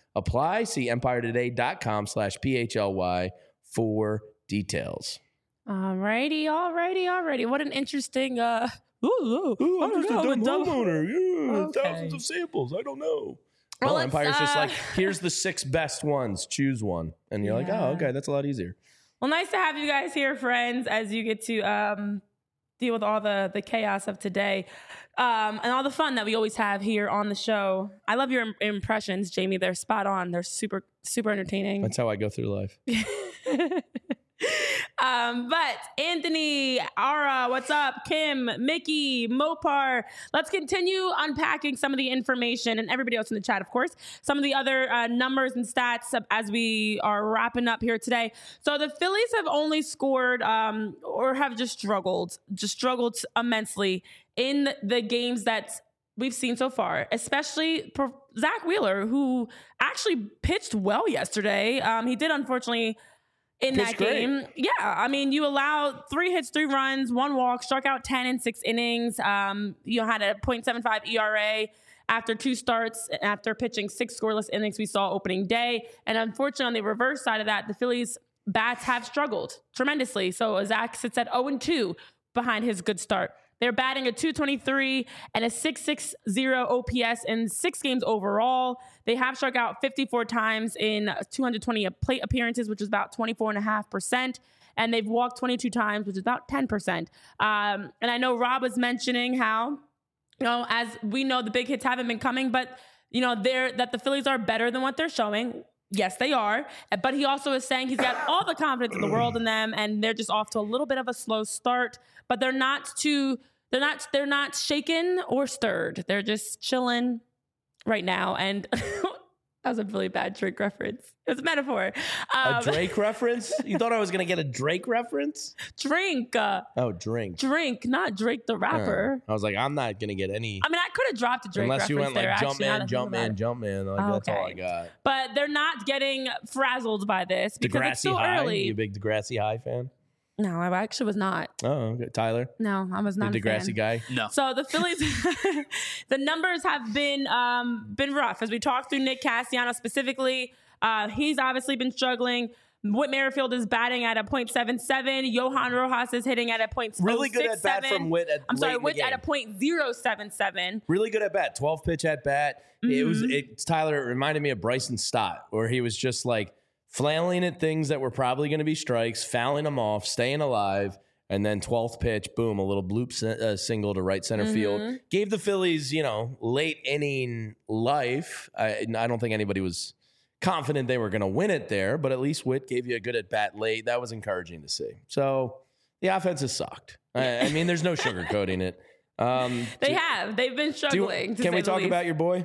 apply. See empire today dot com slash P H L Y for details. Alrighty, alrighty, alrighty. What an interesting. Uh, ooh, ooh, Ooh, I'm I don't just a know, dumb dumb- homeowner. Yeah, Okay. thousands of samples. I don't know. Well, Well, let's, Empire's just uh, like, here's the six best ones. Choose one. And you're like, Yeah. oh, okay, that's a lot easier. Well, nice to have you guys here, friends, as you get to um, deal with all the the chaos of today um, and all the fun that we always have here on the show. I love your im- impressions, Jamie. They're spot on. They're super, super entertaining. That's how I go through life. um, but Anthony, Ara, what's up? Kim, Mickey, Mopar. Let's continue unpacking some of the information and everybody else in the chat, of course, some of the other uh, numbers and stats as we are wrapping up here today. So the Phillies have only scored um, or have just struggled, just struggled immensely in the games that we've seen so far, especially for Zach Wheeler, who actually pitched well yesterday. Um, he did, unfortunately, in Pitched that great. game. Yeah, I mean, you allowed three hits, three runs, one walk, struck out ten in six innings. Um, you had a point seven five E R A after two starts, after pitching six scoreless innings we saw opening day. And unfortunately, on the reverse side of that, the Phillies bats have struggled tremendously. So Zach sits at oh and two behind his good start. They're batting a two twenty-three and a six sixty O P S in six games overall. They have struck out fifty-four times in two hundred twenty plate appearances, which is about twenty-four point five percent. And they've walked twenty-two times, which is about ten percent. Um, and I know Rob was mentioning how, you know, as we know, the big hits haven't been coming, but, you know, they're, that the Phillies are better than what they're showing. Yes, they are. But he also is saying he's got all the confidence in the world in them, and they're just off to a little bit of a slow start. But they're not too, they're not, they're not shaken or stirred. They're just chilling right now. And that was a really bad Drake reference. It was a metaphor. Um, A Drake reference? You thought I was going to get a Drake reference? drink, uh, Oh, drink. drink, not Drake the rapper. I was like, I'm not going to get any. I mean, I could have dropped a Drake Unless reference you went there. like jump actually, now man, that I jump think about man, it. jump man. Like, Oh, that's all I okay. got. But they're not getting frazzled by this because it's Degrassi so High? early. You a big Degrassi High fan? No, I actually was not. Oh, okay. Tyler? No, I was You not a a fan. Degrassi guy? No. So the Phillies, the numbers have been um, been rough. As we talked through Nick Castellanos specifically, uh, he's obviously been struggling. Whit Merrifield is batting at a point seven seven. Johan Rojas is hitting at a point Really good at bat oh six seven. from Whit at I'm late sorry, in the Whit's at a game. point oh seven seven. Really good at bat. twelve pitch at bat. It was Mm-hmm. it's Tyler. It reminded me of Bryson Stott, where he was just like flailing at things that were probably going to be strikes, fouling them off, staying alive, and then twelfth pitch, boom, a little bloop si- uh, single to right center Mm-hmm. field. Gave the Phillies, you know, late inning life. I, I don't think anybody was confident they were going to win it there, but at least Whit gave you a good at bat late. That was encouraging to see. So the offense has sucked. I, I mean, there's no sugarcoating it. Um, They do- have. They've been do you- struggling. to can say we the talk least. about your boy?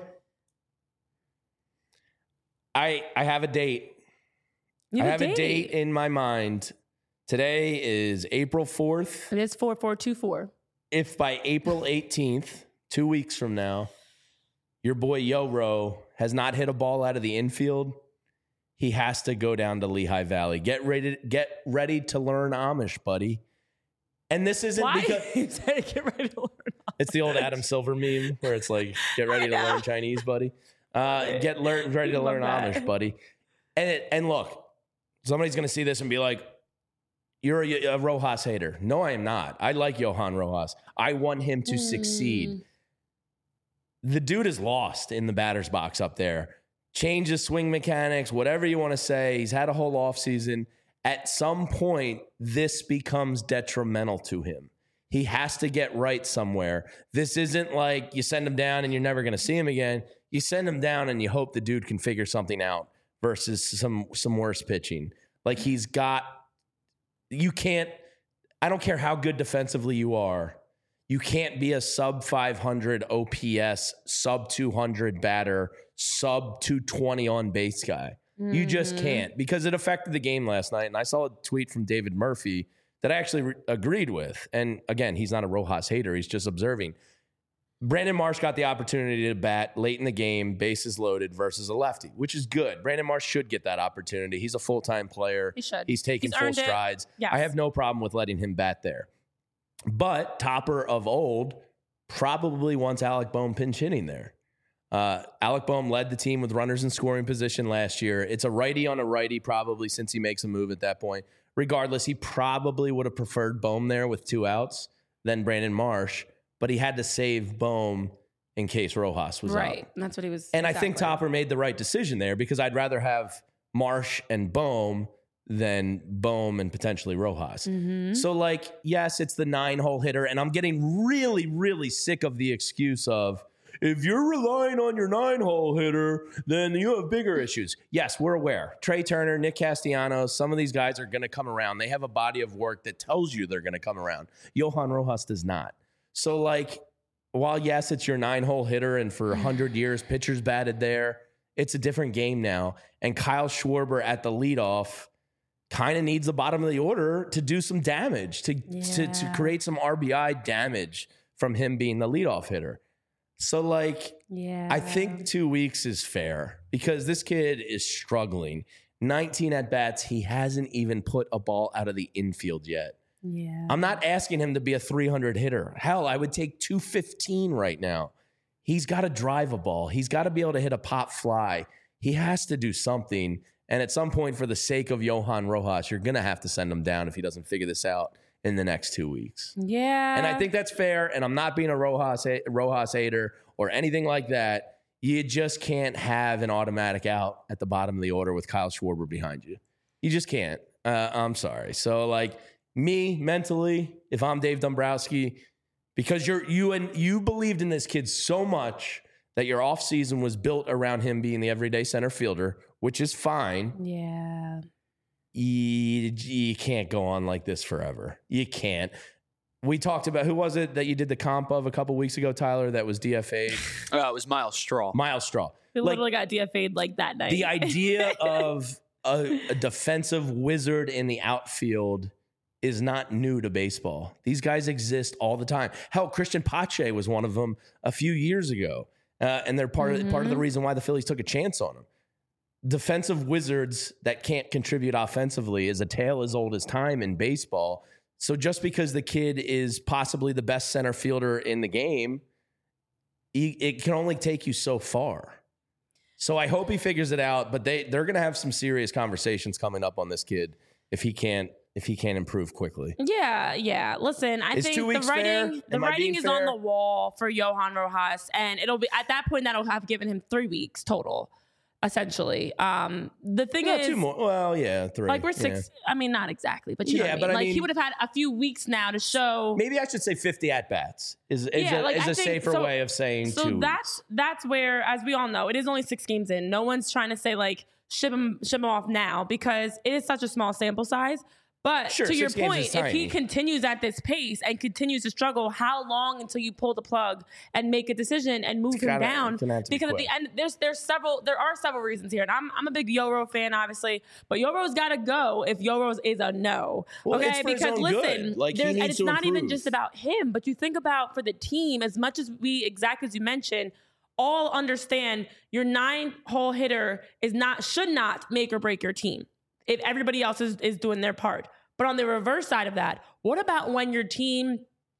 I I have a date. You I have have a date in my mind. Today is April fourth. It is four four two four. If by April eighteenth, two weeks from now, your boy Yo-Ro has not hit a ball out of the infield, he has to go down to Lehigh Valley. Get ready, get ready to learn Amish, buddy. And this isn't Why? because You said get ready to learn. it's the old Adam Silver meme where it's like, get ready to I know. learn Chinese, buddy. Uh, get learn ready to Love learn that. Amish, buddy. And it, and look, somebody's gonna see this and be like, you're a, a Rojas hater. No, I am not. I like Johan Rojas. I want him to Hmm. succeed. The dude is lost in the batter's box up there. Change his swing mechanics, whatever you want to say. He's had a whole offseason. At some point, this becomes detrimental to him. He has to get right somewhere. This isn't like you send him down and you're never going to see him again. You send him down and you hope the dude can figure something out versus some some worse pitching. Like he's got, you can't, I don't care how good defensively you are. You can't be a sub five hundred O P S, sub two hundred batter, sub two twenty on base guy. You just can't, because it affected the game last night. And I saw a tweet from David Murphy that I actually re- agreed with. And again, he's not a Rojas hater. He's just observing. Brandon Marsh got the opportunity to bat late in the game, bases loaded versus a lefty, which is good. Brandon Marsh should get that opportunity. He's a full-time player. He should. He's taking He's full earned it. strides. Yes. I have no problem with letting him bat there. But Topper of old probably wants Alec Bohm pinch hitting there. Uh, Alec Boehm led the team with runners in scoring position last year. It's a righty on a righty probably since he makes a move at that point. Regardless, he probably would have preferred Boehm there with two outs than Brandon Marsh, but he had to save Boehm in case Rojas was right. out. And that's what he was. And exactly. I think Topper made the right decision there because I'd rather have Marsh and Boehm than Boehm and potentially Rojas. Mm-hmm. So, like, yes, it's the nine-hole hitter, and I'm getting really, really sick of the excuse of, if you're relying on your nine-hole hitter, then you have bigger issues. Yes, we're aware. Trey Turner, Nick Castellanos, some of these guys are going to come around. They have a body of work that tells you they're going to come around. Johan Rojas does not. So, like, while, yes, it's your nine-hole hitter, and for one hundred years, pitchers batted there, it's a different game now. And Kyle Schwarber at the leadoff kind of needs the bottom of the order to do some damage, to, Yeah. to, to create some R B I damage from him being the leadoff hitter. So, like, Yeah. I think two weeks is fair because this kid is struggling. nineteen at-bats, he hasn't even put a ball out of the infield yet. Yeah. I'm not asking him to be a three hundred hitter. Hell, I would take two fifteen right now. He's got to drive a ball. He's got to be able to hit a pop fly. He has to do something. And at some point, for the sake of Johan Rojas, you're going to have to send him down if he doesn't figure this out in the next two weeks. Yeah. And I think that's fair. And I'm not being a Rojas, Rojas hater or anything like that. You just can't have an automatic out at the bottom of the order with Kyle Schwarber behind you. You just can't. Uh, I'm sorry. So, like, me mentally, if I'm Dave Dombrowski, because you're you and you believed in this kid so much that your offseason was built around him being the everyday center fielder, which is fine. Yeah. You, you can't go on like this forever. You can't. We talked about, who was it that you did the comp of a couple weeks ago, Tyler, that was D F A'd? Uh, it was Miles Straw. Miles Straw. We Like, literally got D F A'd like that night. the idea of a, a defensive wizard in the outfield is not new to baseball. These guys exist all the time. Hell, Christian Pache was one of them a few years ago. Uh, and they're part Mm-hmm. of part of the reason why the Phillies took a chance on him. Defensive wizards that can't contribute offensively is a tale as old as time in baseball. So just because the kid is possibly the best center fielder in the game, he, it can only take you so far. So I hope he figures it out, but they, they're going to have some serious conversations coming up on this kid if he can't if he can't improve quickly. Yeah, yeah. Listen, I Is think two the weeks writing fair? the Am I writing being is on fair? the wall for Johan Rojas, and it'll be at that point that'll have given him three weeks total, essentially. Um, the thing Yeah, is, two more. Well, yeah, three. like we're Yeah. six. I mean, not exactly, but you know Yeah, what I mean. but I like he mean- would have had a few weeks now to show. Maybe I should say fifty at bats is is Yeah, a, like, is I a think- safer so- way of saying So two. that's that's where, as we all know, it is only six games in. No one's trying to say like ship him ship him off now because it is such a small sample size. But Sure, to your six games is point, if he tiny. continues at this pace and continues to struggle, how long until you pull the plug and make a decision and move him gotta- down? it's gonna have to be Because at quick. the end, there's there's several there are several reasons here, and I'm I'm a big Yoro fan, obviously, but Yoro's got to go if Yoro's is a no. Well, okay, it's for his because own listen, good. Like, he there's, and needs it's to not even improve. just about him, but you think about for the team as much as we exactly as you mentioned. All understand your nine hole hitter is not should not make or break your team if everybody else is, is doing their part. But on the reverse side of that, what about when your team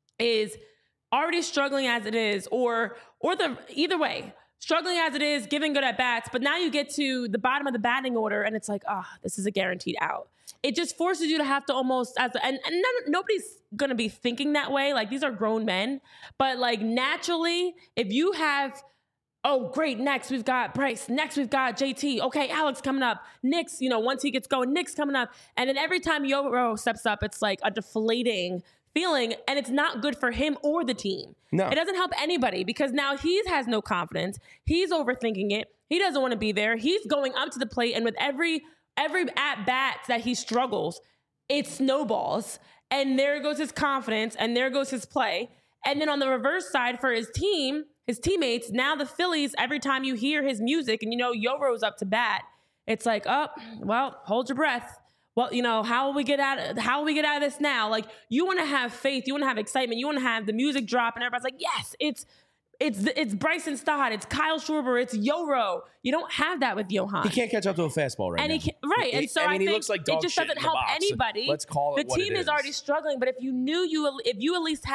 is already struggling as it is, or or the either way, struggling as it is, giving good at bats, but now you get to the bottom of the batting order and it's like, ah, oh, this is a guaranteed out. It just forces you to have to almost as a, and, and none, nobody's gonna be thinking that way. Like these are grown men, but like naturally, if you have oh, great. Next, we've got Bryce. Next, we've got J T. Okay, Alex coming up. Nick's, you know, once he gets going, Nick's coming up. And then every time Yoro steps up, it's like a deflating feeling. And it's not good for him or the team. No. It doesn't help anybody because now he has no confidence. He's overthinking it. He doesn't want to be there. He's going up to the plate. And with every every at-bat that he struggles, it snowballs. And there goes his confidence. And there goes his play. And then on the reverse side for his team, his teammates, now the Phillies, every time you hear his music and you know Yoro's up to bat, it's like, oh, well, hold your breath. Well, you know, how will we get out of how will we get out of this now? Like you want to have faith, you want to have excitement, you want to have the music drop, and everybody's like, yes, it's it's it's Bryson Stott, it's Kyle Schwarber, it's Yoro. You don't have that with Johan. He can't catch up to a fastball right and now. he can, right, He- and so I I, mean, he think looks like it dog just shit doesn't in the help box. anybody. Let's call it The what team it is is. already struggling, but if you knew you if you at least had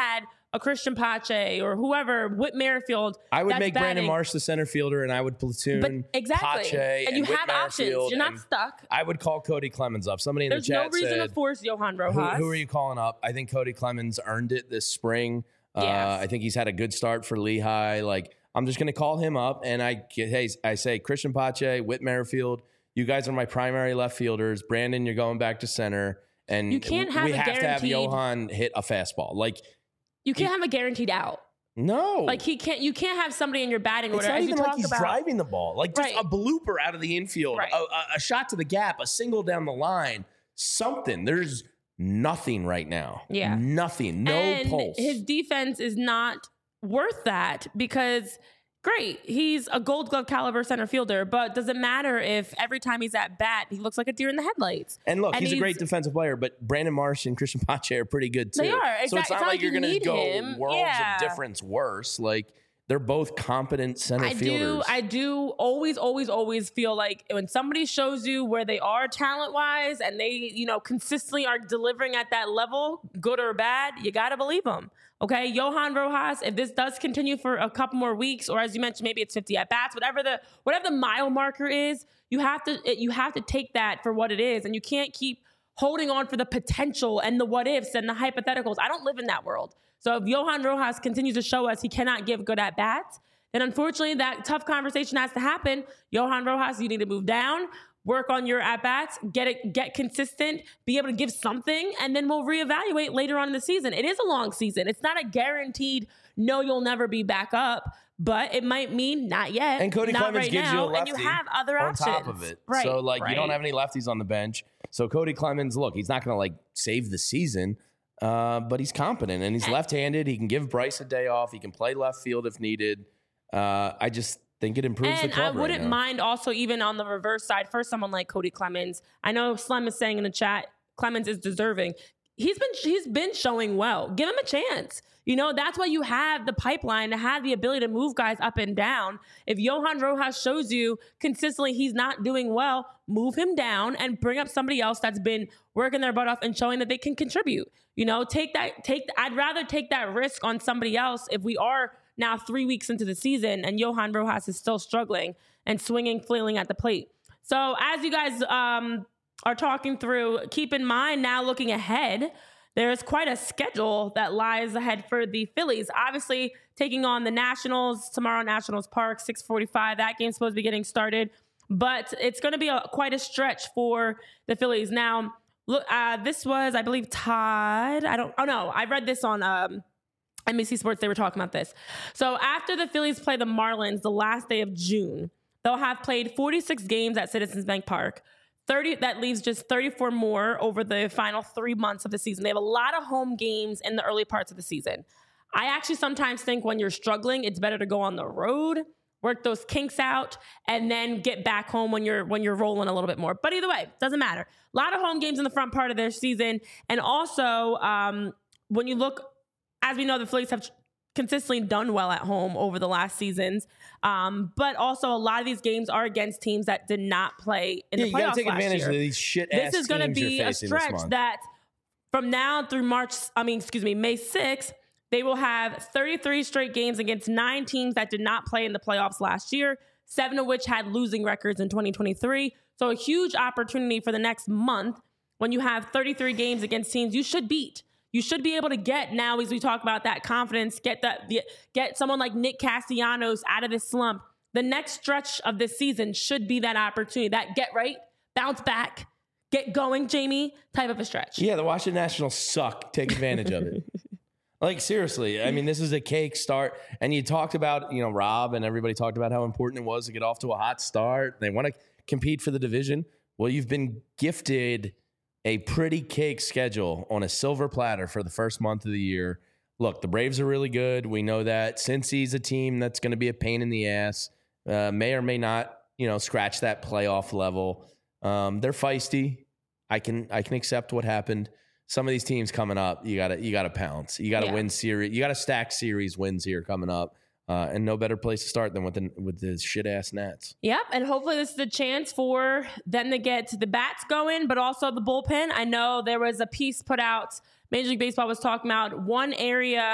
a Christian Pache or whoever, Whit Merrifield. I would that's make Brandon batting. Marsh the center fielder, and I would platoon But exactly. Pache and, and you Whit have options. Merrifield, You're not and stuck. I would call Cody Clemens up. Somebody in There's the no chat reason said, to force Johan who, Rojas. who are you calling up? I think Cody Clemens earned it this spring. Uh, Yes. I think he's had a good start for Lehigh. Like, I'm just going to call him up, and I hey, I say Christian Pache, Whit Merrifield, you guys are my primary left fielders. Brandon, you're going back to center. And You can't have we a have to have guaranteed- Johan hit a fastball. Like, You can't have a guaranteed out. no. Like he can't. You can't have somebody in your batting It's order not as even you like talk he's about. driving the ball. Like just Right. a blooper out of the infield, Right. a, a, a shot to the gap, a single down the line, something. There's nothing right now. Yeah. Nothing. No and pulse. his defense is not worth that because great, he's a Gold Glove caliber center fielder, but does it matter if every time he's at bat he looks like a deer in the headlights? and look, and he's, a he's- great defensive player, but Brandon Marsh and Christian Pache are pretty good too. They are. So Exact- it's not it's not like like you're you going to need go him. worlds Yeah. of difference worse. Like they're both competent center I fielders. do, I do always, always, always feel like when somebody shows you where they are talent wise and they, you know, consistently are delivering at that level, good or bad, you got to believe them. Okay. Johan Rojas, if this does continue for a couple more weeks, or as you mentioned, maybe it's fifty at bats, whatever the, whatever the mile marker is, you have to, it, you have to take that for what it is. And you can't keep holding on for the potential and the what ifs and the hypotheticals. I don't live in that world. So if Johan Rojas continues to show us he cannot give good at bats, then unfortunately that tough conversation has to happen. Johan Rojas, you need to move down, work on your at bats, get it, get consistent, be able to give something, and then we'll reevaluate later on in the season. It is a long season. It's not a guaranteed no, you'll never be back up, but it might mean not yet. And Cody not Clemens right gives now, you a lefty and you have other on options. top of it. Right, so like right. you don't have any lefties on the bench. So Cody Clemens, look, he's not going to like save the season, uh, but he's competent and he's left-handed. He can give Bryce a day off. He can play left field if needed. Uh, I just think it improves And the club I right wouldn't now. mind also even on the reverse side for someone like Cody Clemens. I know Slem is saying in the chat, Clemens is deserving. He's been he's been showing well. Give him a chance. You know, that's why you have the pipeline to have the ability to move guys up and down. If Johan Rojas shows you consistently he's not doing well, move him down and bring up somebody else that's been working their butt off and showing that they can contribute. You know, take that take I'd rather take that risk on somebody else if we are now three weeks into the season and Johan Rojas is still struggling and swinging, flailing at the plate. So as you guys um, are talking through, keep in mind now looking ahead, there's quite a schedule that lies ahead for the Phillies. Obviously, taking on the Nationals tomorrow, Nationals Park, six forty-five. That game's supposed to be getting started, but it's going to be a, quite a stretch for the Phillies. Now, look, uh, this was, I believe, Todd. I don't. Oh no, I read this on um, N B C Sports. They were talking about this. So after the Phillies play the Marlins the last day of June, they'll have played forty-six games at Citizens Bank Park. thirty that leaves just thirty-four more over the final three months of the season. They have a lot of home games in the early parts of the season. I actually sometimes think when you're struggling, it's better to go on the road, work those kinks out, and then get back home when you're when you're rolling a little bit more. But either way, doesn't matter. A lot of home games in the front part of their season. And also, um, when you look, as we know, the Phillies have consistently done well at home over the last seasons. Um, but also a lot of these games are against teams that did not play in Yeah, the you playoffs got to take last advantage year. of these shit ass This is going to teams you're be a facing this stretch month. that from now through March, I mean, excuse me, May sixth, they will have thirty-three straight games against nine teams that did not play in the playoffs last year, seven of which had losing records in twenty twenty-three. So a huge opportunity for the next month when you have thirty-three games against teams you should beat. You should be able to get now, as we talk about that confidence, get that, get someone like Nick Castellanos out of this slump. The next stretch of this season should be that opportunity, that get right, bounce back, get going, Jamie, type of a stretch. Yeah, the Washington Nationals suck. Take advantage of it. Like, seriously, I mean, this is a cake start. And you talked about, you know, Rob and everybody talked about how important it was to get off to a hot start. They want to compete for the division. Well, you've been gifted a pretty cake schedule on a silver platter for the first month of the year. Look, the Braves are really good. We know that. Cincy's a team that's going to be a pain in the ass. Uh, may or may not, you know, scratch that playoff level. Um, they're feisty. I can I can accept what happened. Some of these teams coming up, you gotta you gotta pounce. You gotta Yeah. win series. You gotta stack series wins here coming up. Uh, and no better place to start than with the with the shit ass Nats. Yep, and hopefully this is a chance for them to get the bats going, but also the bullpen. I know there was a piece put out, Major League Baseball was talking about one area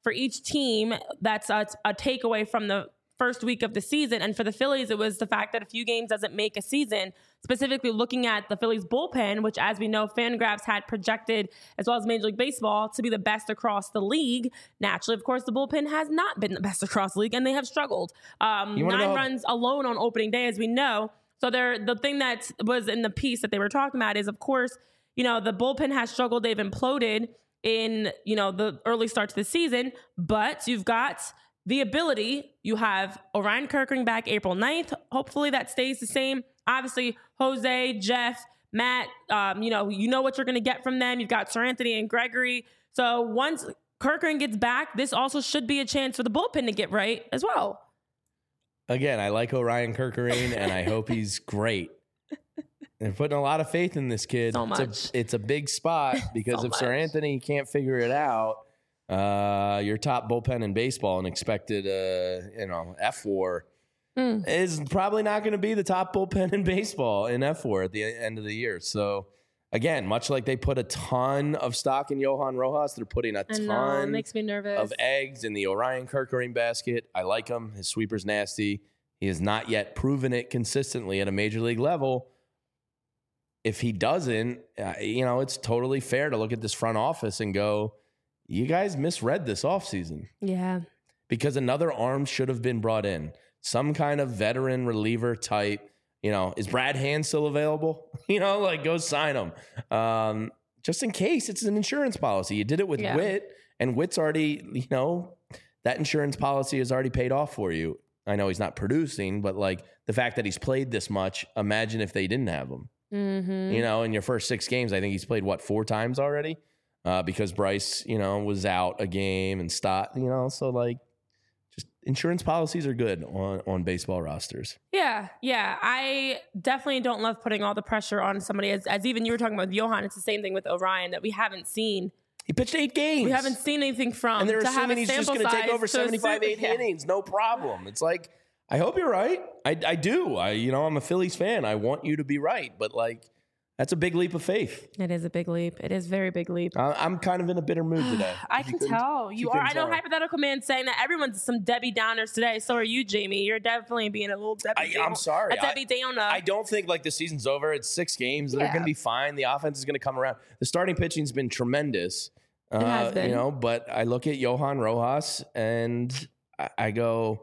for each team, that's a, a takeaway from the first week of the season. And for the Phillies, it was the fact that a few games doesn't make a season, specifically looking at the Phillies bullpen, which, as we know, Fangraphs had projected, as well as Major League Baseball, to be the best across the league. Naturally, of course, the bullpen has not been the best across the league, and they have struggled. Um, nine know- runs alone on opening day, as we know. So they're, the thing that was in the piece that they were talking about is, of course, you know, the bullpen has struggled. They've imploded in, you know, the early start to the season, but you've got the ability. You have Orion Kirkering back April ninth. Hopefully that stays the same. Obviously, Jose, Jeff, Matt, um, you know, you know what you're going to get from them. You've got Sir Anthony and Gregory. So once Kirkering gets back, this also should be a chance for the bullpen to get right as well. Again, I like Orion Kirkering, and I hope he's great. They're putting a lot of faith in this kid. So much. It's a, it's a big spot because So if Sir much. Anthony can't figure it out, uh, your top bullpen in baseball and expected, uh, you know, F war Mm. is probably not going to be the top bullpen in baseball in F war at the end of the year. So, again, much like they put a ton of stock in Johan Rojas, they're putting a I know, it ton makes me nervous. of eggs in the Orion Kirkering basket. I like him. His sweeper's nasty. He has not yet proven it consistently at a major league level. If he doesn't, uh, you know, it's totally fair to look at this front office and go, you guys misread this offseason Yeah. because another arm should have been brought in. Some kind of veteran reliever type. You know, is Brad Hand still available? You know, like go sign him. Um, just in case it's an insurance policy. You did it with Yeah. Witt, and Witt's already, you know, that insurance policy is already paid off for you. I know he's not producing, but like the fact that he's played this much, imagine if they didn't have him. Mm-hmm. You know, in your first six games, I think he's played, what, four times already? Uh, because Bryce, you know, was out a game and stopped, you know, so like just insurance policies are good on, on baseball rosters. Yeah, yeah. I definitely don't love putting all the pressure on somebody. As, as even you were talking about with Johan, it's the same thing with Orion that we haven't seen. He pitched eight games. We haven't seen anything from. and they're to have assuming a he's just sample going to take size over to seventy-five, assume- eighty yeah. innings. No problem. It's like, I hope you're right. I, I do. I, you know, I'm a Phillies fan. I want you to be right. But like, that's a big leap of faith. It is a big leap. It is a very big leap. I, I'm kind of in a bitter mood today. I If you can couldn't- tell if you are. couldn't I know tell. hypothetical man saying that everyone's some Debbie Downers today. So are you, Jamie. You're definitely being a little Debbie. I, Down- I'm sorry. A Debbie Downer. I don't think like the season's over. It's six games. They're Yeah. going to be fine. The offense is going to come around. The starting pitching's been tremendous. Uh, has been. You know, but I look at Johan Rojas and I, I go,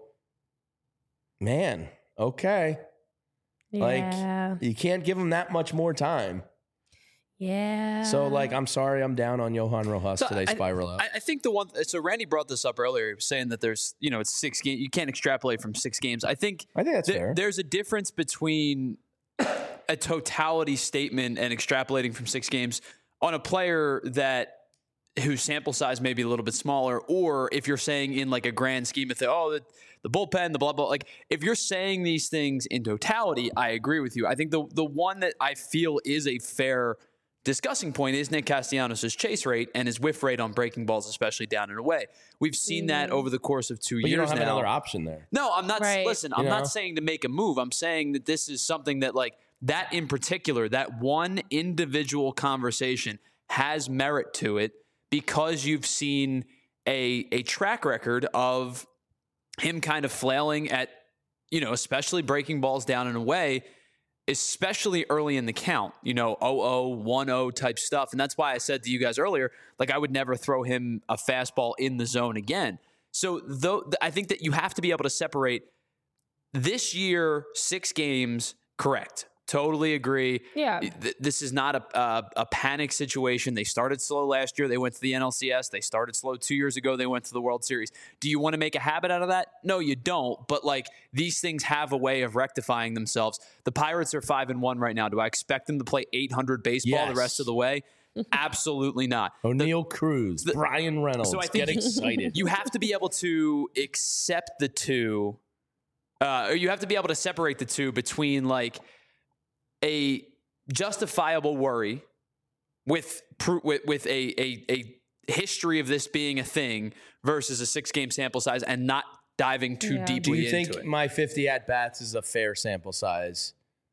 man, okay. yeah. Like you can't give him that much more time. yeah. So like, I'm sorry, I'm down on Johan Rojas So today. I- Spiral out. I, I think the one. So Randy brought this up earlier. He was saying that there's, you know, it's six games. You can't extrapolate from six games. I think I think that's there- fair. there's a difference between a totality statement and extrapolating from six games on a player that whose sample size may be a little bit smaller, or if you're saying in like a grand scheme of things, oh, the, the bullpen, the blah blah. Like if you're saying these things in totality, I agree with you. I think the the one that I feel is a fair discussing point is Nick Castellanos' chase rate and his whiff rate on breaking balls, especially down and away. We've seen that over the course of two but you years don't have now. another option there. No, I'm not. Right. Listen, You I'm know? not saying to make a move. I'm saying that this is something that, like, that in particular, that one individual conversation has merit to it because you've seen a a track record of him kind of flailing at, you know, especially breaking balls down and away, especially early in the count, you know, oh oh, one oh type stuff. And that's why I said to you guys earlier, like, I would never throw him a fastball in the zone again. So though I think that you have to be able to separate this year, six games, correct. Totally agree. Yeah. Th- This is not a, a a panic situation. They started slow last year. They went to the N L C S. They started slow two years ago. They went to the World Series. Do you want to make a habit out of that? No, you don't. But like these things have a way of rectifying themselves. The Pirates are five and one right now. Do I expect them to play eight hundred baseball Yes. the rest of the way? Absolutely not. O'Neill Cruz, Brian Reynolds. So I get think excited. You have to be able to accept the two, uh, or you have to be able to separate the two between like a justifiable worry with pr- with, with a, a a history of this being a thing versus a six game sample size and not diving too Yeah. deeply Do you into think it. my fifty at bats is a fair sample size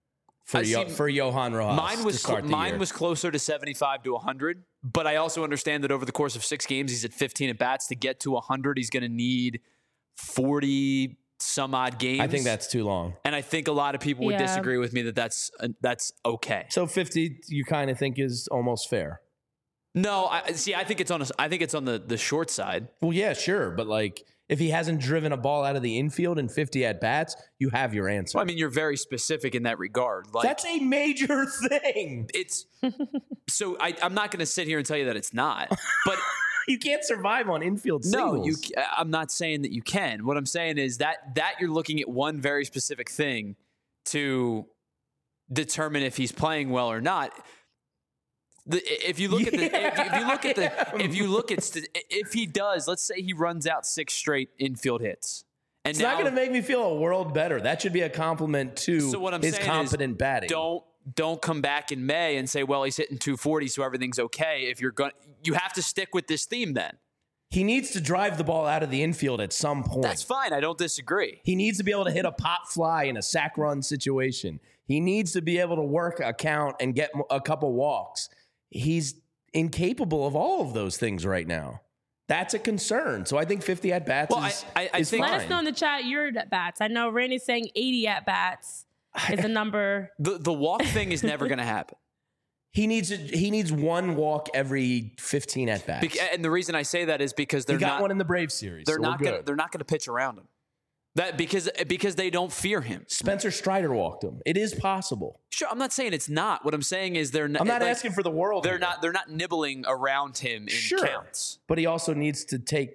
for I Yo, see- for Johan Rojas. Mine was to start cl- the mine year. was closer to seventy-five to one hundred, but I also understand that over the course of six games, he's at fifteen at bats. To get to one hundred, he's going to need forty some odd games. I think that's too long. and I think a lot of people would Yeah. disagree with me that that's uh, that's okay. So fifty, you kind of think is almost fair. No, I see. I think it's on. A, I think it's on the the short side. Well, yeah, sure, but like if he hasn't driven a ball out of the infield in fifty at bats, you have your answer. Well, I mean, you're very specific in that regard. Like That's a major thing. it's. So I, I'm not going to sit here and tell you that it's not, but. You can't survive on infield singles. No, you. ca- I'm not saying that you can. What I'm saying is that that you're looking at one very specific thing to determine if he's playing well or not. The, if you look at the, if, if you look at the, if you look at, st- if he does, let's say he runs out six straight infield hits, and It's now, not going to make me feel a world better. That should be a compliment to So what I'm his saying competent is batting. Don't don't come back in May and say, well, he's hitting two forty, so everything's okay. If you're going, you have to stick with this theme. Then He needs to drive the ball out of the infield at some point. that's fine. I don't disagree. He needs to be able to hit a pop fly in a sack run situation. He needs to be able to work a count and get m- a couple walks. He's incapable of all of those things right now. That's a concern. So I think fifty at bats Well, is, I- I- I is think- fine. Let us know in the chat your at bats. I know Randy's saying eighty at bats is a number. The the walk thing is never going to happen. He needs a, he needs one walk every fifteen at bats. Bec- and the reason I say that is because He they're got not one in the Braves series. they're so we're not gonna good. they're not gonna pitch around him. That because because they don't fear him. Spencer Strider walked him. It is possible. Sure, I'm not saying it's not. What I'm saying is they're not. I'm not like, asking for the world. They're here. not they're not nibbling around him in Sure. counts. But he also needs to take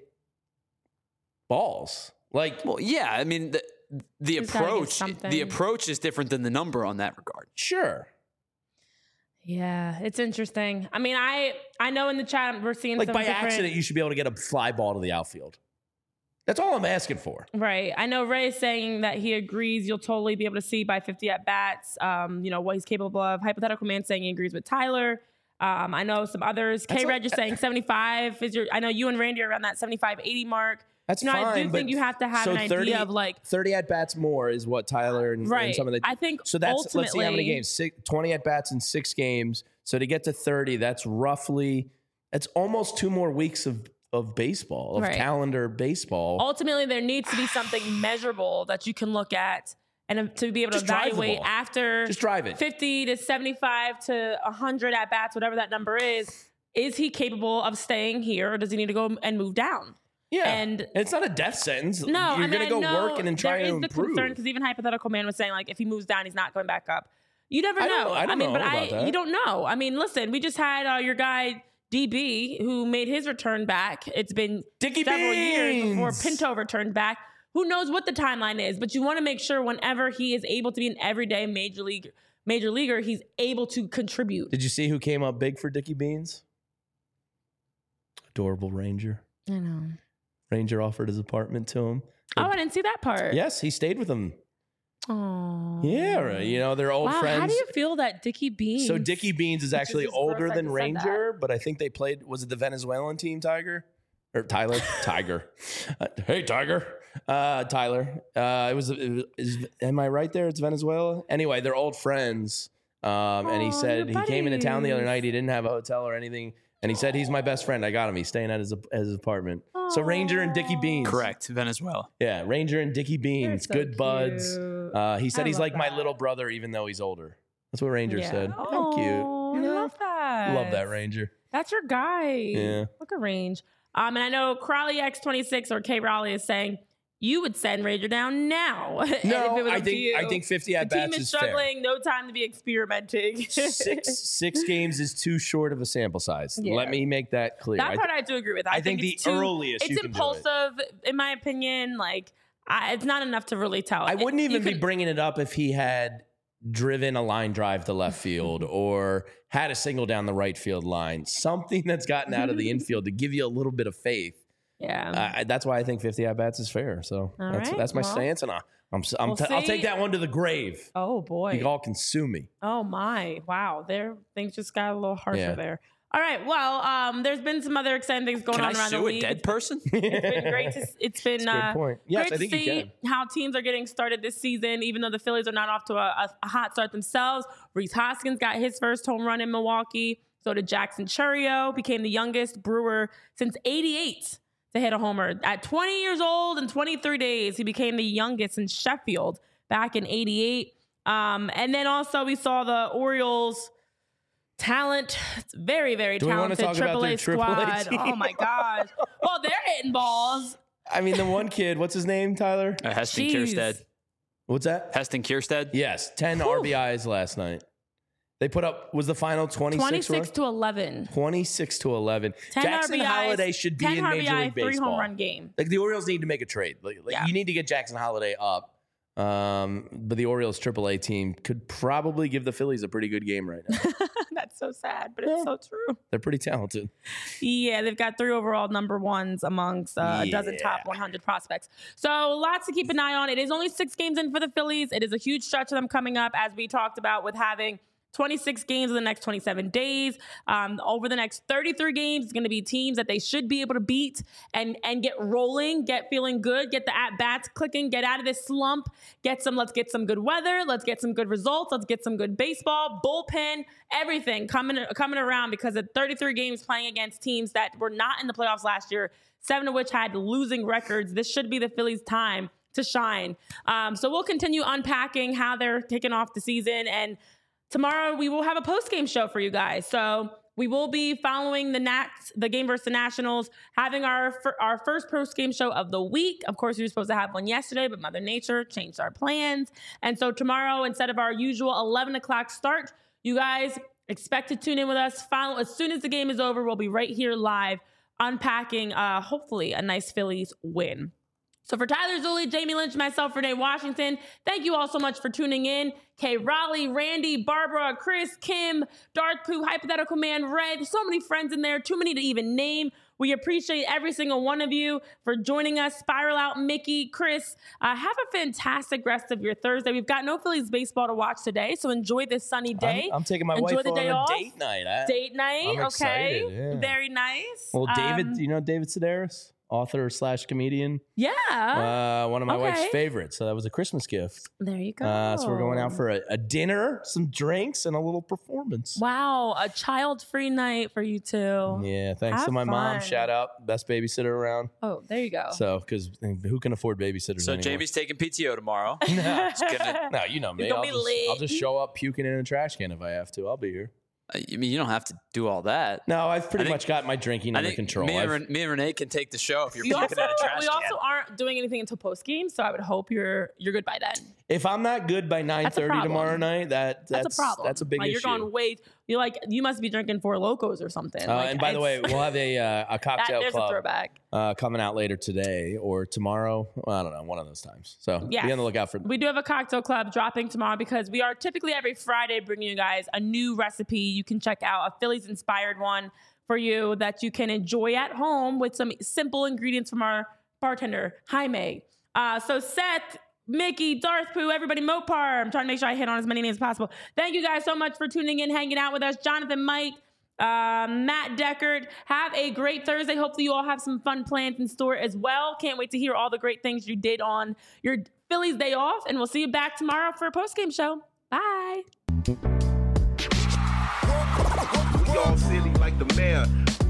balls. Like, Well, yeah, I mean the the He's gotta get approach something. the approach is different than the number on that regard. sure. Yeah, it's interesting. I mean, I I know in the chat we're seeing Like some by different, accident, you should be able to get a fly ball to the outfield. That's all I'm asking for. Right. I know Ray is saying that he agrees you'll totally be able to see by fifty at bats, um, you know, what he's capable of. Hypothetical Man saying he agrees with Tyler. Um, I know some others. That's K Reg like- is saying seventy-five is your, I know you and Randy are around that seventy-five, eighty mark. That's You know, fine. I do but think you have to have so an idea thirty of like, thirty at bats more is what Tyler and, and right. some of the. I think So that's ultimately, let's see how many games. Six, twenty at bats in six games. So to get to thirty, that's roughly that's almost two more weeks of of baseball of Right. calendar baseball. ultimately there needs to be something measurable that you can look at and to be able to Just drive the evaluate ball. after Just drive it. fifty to seventy-five to one hundred at bats, whatever that number is. Is he capable of staying here or does he need to go and move down? Yeah, and- it's not a death sentence. No, you're I mean, gonna I go know work and then try there to is the improve. concern because even Hypothetical Man was saying like if he moves down, he's not going back up. You never I know. don't- I don't mean, know but about I that. you don't know. I mean, listen, we just had uh, your guy D B who made his return back. It's been Dickie several years before Beans! Pinto returned back. Who knows what the timeline is? But you want to make sure whenever he is able to be an everyday major league major leaguer, he's able to contribute. Did you see who came up big for Dickie Beans? Adorable Ranger. I know. Ranger offered his apartment to him. Oh, I didn't see that part. Yes, he stayed with him. Oh. Yeah, right. You know, they're old Wow, friends. how do you feel that Dickie Beans? So Dickie Beans is actually just gross older I than just said Ranger, but I think they played. Was it the Venezuelan team, Tiger or Tyler? Tiger. Uh, hey, Tiger. Uh, Tyler. Uh, it was. It was is, am I right there? It's Venezuela. Anyway, they're old friends. Um, and he Aw, said he you're came into town the other buddies. night. He didn't have a hotel or anything, and he said he's my best friend. I got him. He's staying at his at his apartment. So Ranger and Dickie Beans. Correct, Venezuela. Yeah, Ranger and Dickie They're Beans, so good buds. cute. Uh, he said I he's love like my that. little brother, even though he's older. That's what Ranger Yeah. said. Oh, How cute. I You know? love that. Love that Ranger. That's your guy. Yeah. Look at Range. Um, and I know Crowley X twenty-six or K Raleigh is saying you would send Ranger down now. And if it No, was I up to think you. I think fifty the at team bats is is fair. struggling. No time to be experimenting. Six six games is too short of a sample size. Yeah. Let me make that clear. That I, part I do agree with. I, I think it's the too, earliest it's you can do it. impulsive, in my opinion. Like I, it's not enough to really tell. I wouldn't You even be could- bringing it up if he had driven a line drive to left field or had a single down the right field line. Something that's gotten out of the infield to give you a little bit of faith. Yeah. Uh, that's why I think fifty at bats is fair. So All that's right, that's my well. stance, and I, I'm I'm We'll t- I'll see. take that one to the grave. oh boy. You all can sue me. Oh my! Wow, there things just got a little harsher Yeah. there. All right. Well, um, there's been some other exciting things going Can on I around sue the a league. dead person? It's been great. To, it's been That's a good uh, point. Yes, great I think to you see can. how teams are getting started this season, even though the Phillies are not off to a, a hot start themselves. Rhys Hoskins got his first home run in Milwaukee. So did Jackson Chourio, became the youngest Brewer since eighty-eight to hit a homer. At twenty years old and twenty-three days, he became the youngest in Sheffield back in eighty-eight. Um, and then also we saw the Orioles talent. It's very, very Do we want to talented talk about triple A their triple A squad. team? Oh my gosh. Well, they're hitting balls. I mean, the one kid, what's his name, Tyler? Uh, Heston Jeez. Kierstead. What's that? Heston Kierstead. Yes, ten Whew. R B Is last night. They put up, was the final twenty-six? twenty-six run? to eleven. twenty-six to eleven. ten Jackson R B Is, Holiday should be ten in R B Major I, League three Baseball. home run game. Like the Orioles need to make a trade. Like, like Yeah. you need to get Jackson Holiday up. Um, but the Orioles triple A team could probably give the Phillies a pretty good game right now. That's so sad, but it's so true. They're pretty talented. Yeah, they've got three overall number ones amongst uh, a dozen top Yeah. one hundred prospects. So lots to keep an eye on. It is only six games in for the Phillies. It is a huge stretch of them coming up, as we talked about, with having twenty-six games in the next twenty-seven days. Um, over the next thirty-three games, it's going to be teams that they should be able to beat and and get rolling, get feeling good, get the at-bats clicking, get out of this slump, get some, let's get some good weather, let's get some good results, let's get some good baseball, bullpen, everything coming coming around, because of thirty-three games playing against teams that were not in the playoffs last year, seven of which had losing records. This should be the Phillies' time to shine. Um, so we'll continue unpacking how they're kicking off the season, and tomorrow we will have a post-game show for you guys. So we will be following the Nats, the game versus the Nationals, having our fir- our first post-game show of the week. Of course, we were supposed to have one yesterday, but Mother Nature changed our plans. And so tomorrow, instead of our usual eleven o'clock start, you guys expect to tune in with us. Follow as soon as the game is over. We'll be right here live unpacking, uh, hopefully, a nice Phillies win. So for Tyler Zulli, Jamie Lynch, myself, Renee Washington, thank you all so much for tuning in. Kay Raleigh, Randy, Barbara, Chris, Kim, Darth Pooh, Hypothetical Man, Red, so many friends in there, too many to even name. We appreciate every single one of you for joining us. Spiral Out, Mickey, Chris, uh, have a fantastic rest of your Thursday. We've got no Phillies baseball to watch today, so enjoy this sunny day. I'm, I'm taking my Enjoy wife the on day a off. date night. I, Date night, I'm okay. excited, yeah. Very nice. well, David, Um, you know David Sedaris? Author slash comedian. yeah. Uh, one of my okay. wife's favorites. So that was a Christmas gift. There you go. Uh, so we're going out for a, a dinner, some drinks, and a little performance. Wow, a child-free night for you two. Yeah, thanks Have to my mom. fun. Shout out, best babysitter around. Oh, there you go. So, because who can afford babysitters So anymore? Jamie's taking P T O tomorrow. no, It's gonna, no, you know me. gonna I'll be just, late. I'll just show up puking in a trash can if I have to. I'll be here. I mean, you don't have to do all that. No, I've pretty I think- much got my drinking I under think control. me and, I've- Ren- me and Renee can take the show if you're We puking also, at a trash we can. also aren't doing anything until post game, so I would hope you're you're good by then. if I'm not good by nine thirty problem. tomorrow night, that that's, That's, a problem. That's a big like, issue. You're going way. You're like you must be drinking Four Locos or something. Uh, Like, and by the way, it's- we'll have a uh, a that, cocktail there's a club throwback. uh, coming out later today or tomorrow. Well, I don't know, one of those times. So Yes. be on the lookout for. We do have a cocktail club dropping tomorrow because we are typically every Friday bringing you guys a new recipe. You can check out a Phillies inspired one for you that you can enjoy at home with some simple ingredients from our bartender, Jaime. Uh, so Seth, Mickey, Darth Pooh, everybody, Mopar. I'm trying to make sure I hit on as many names as possible. Thank you guys so much for tuning in, hanging out with us. Jonathan, Mike, uh, Matt Deckard. Have a great Thursday. Hopefully you all have some fun plans in store as well. Can't wait to hear all the great things you did on your Phillies day off. And we'll see you back tomorrow for a post-game show. Bye. We all silly like the mayor.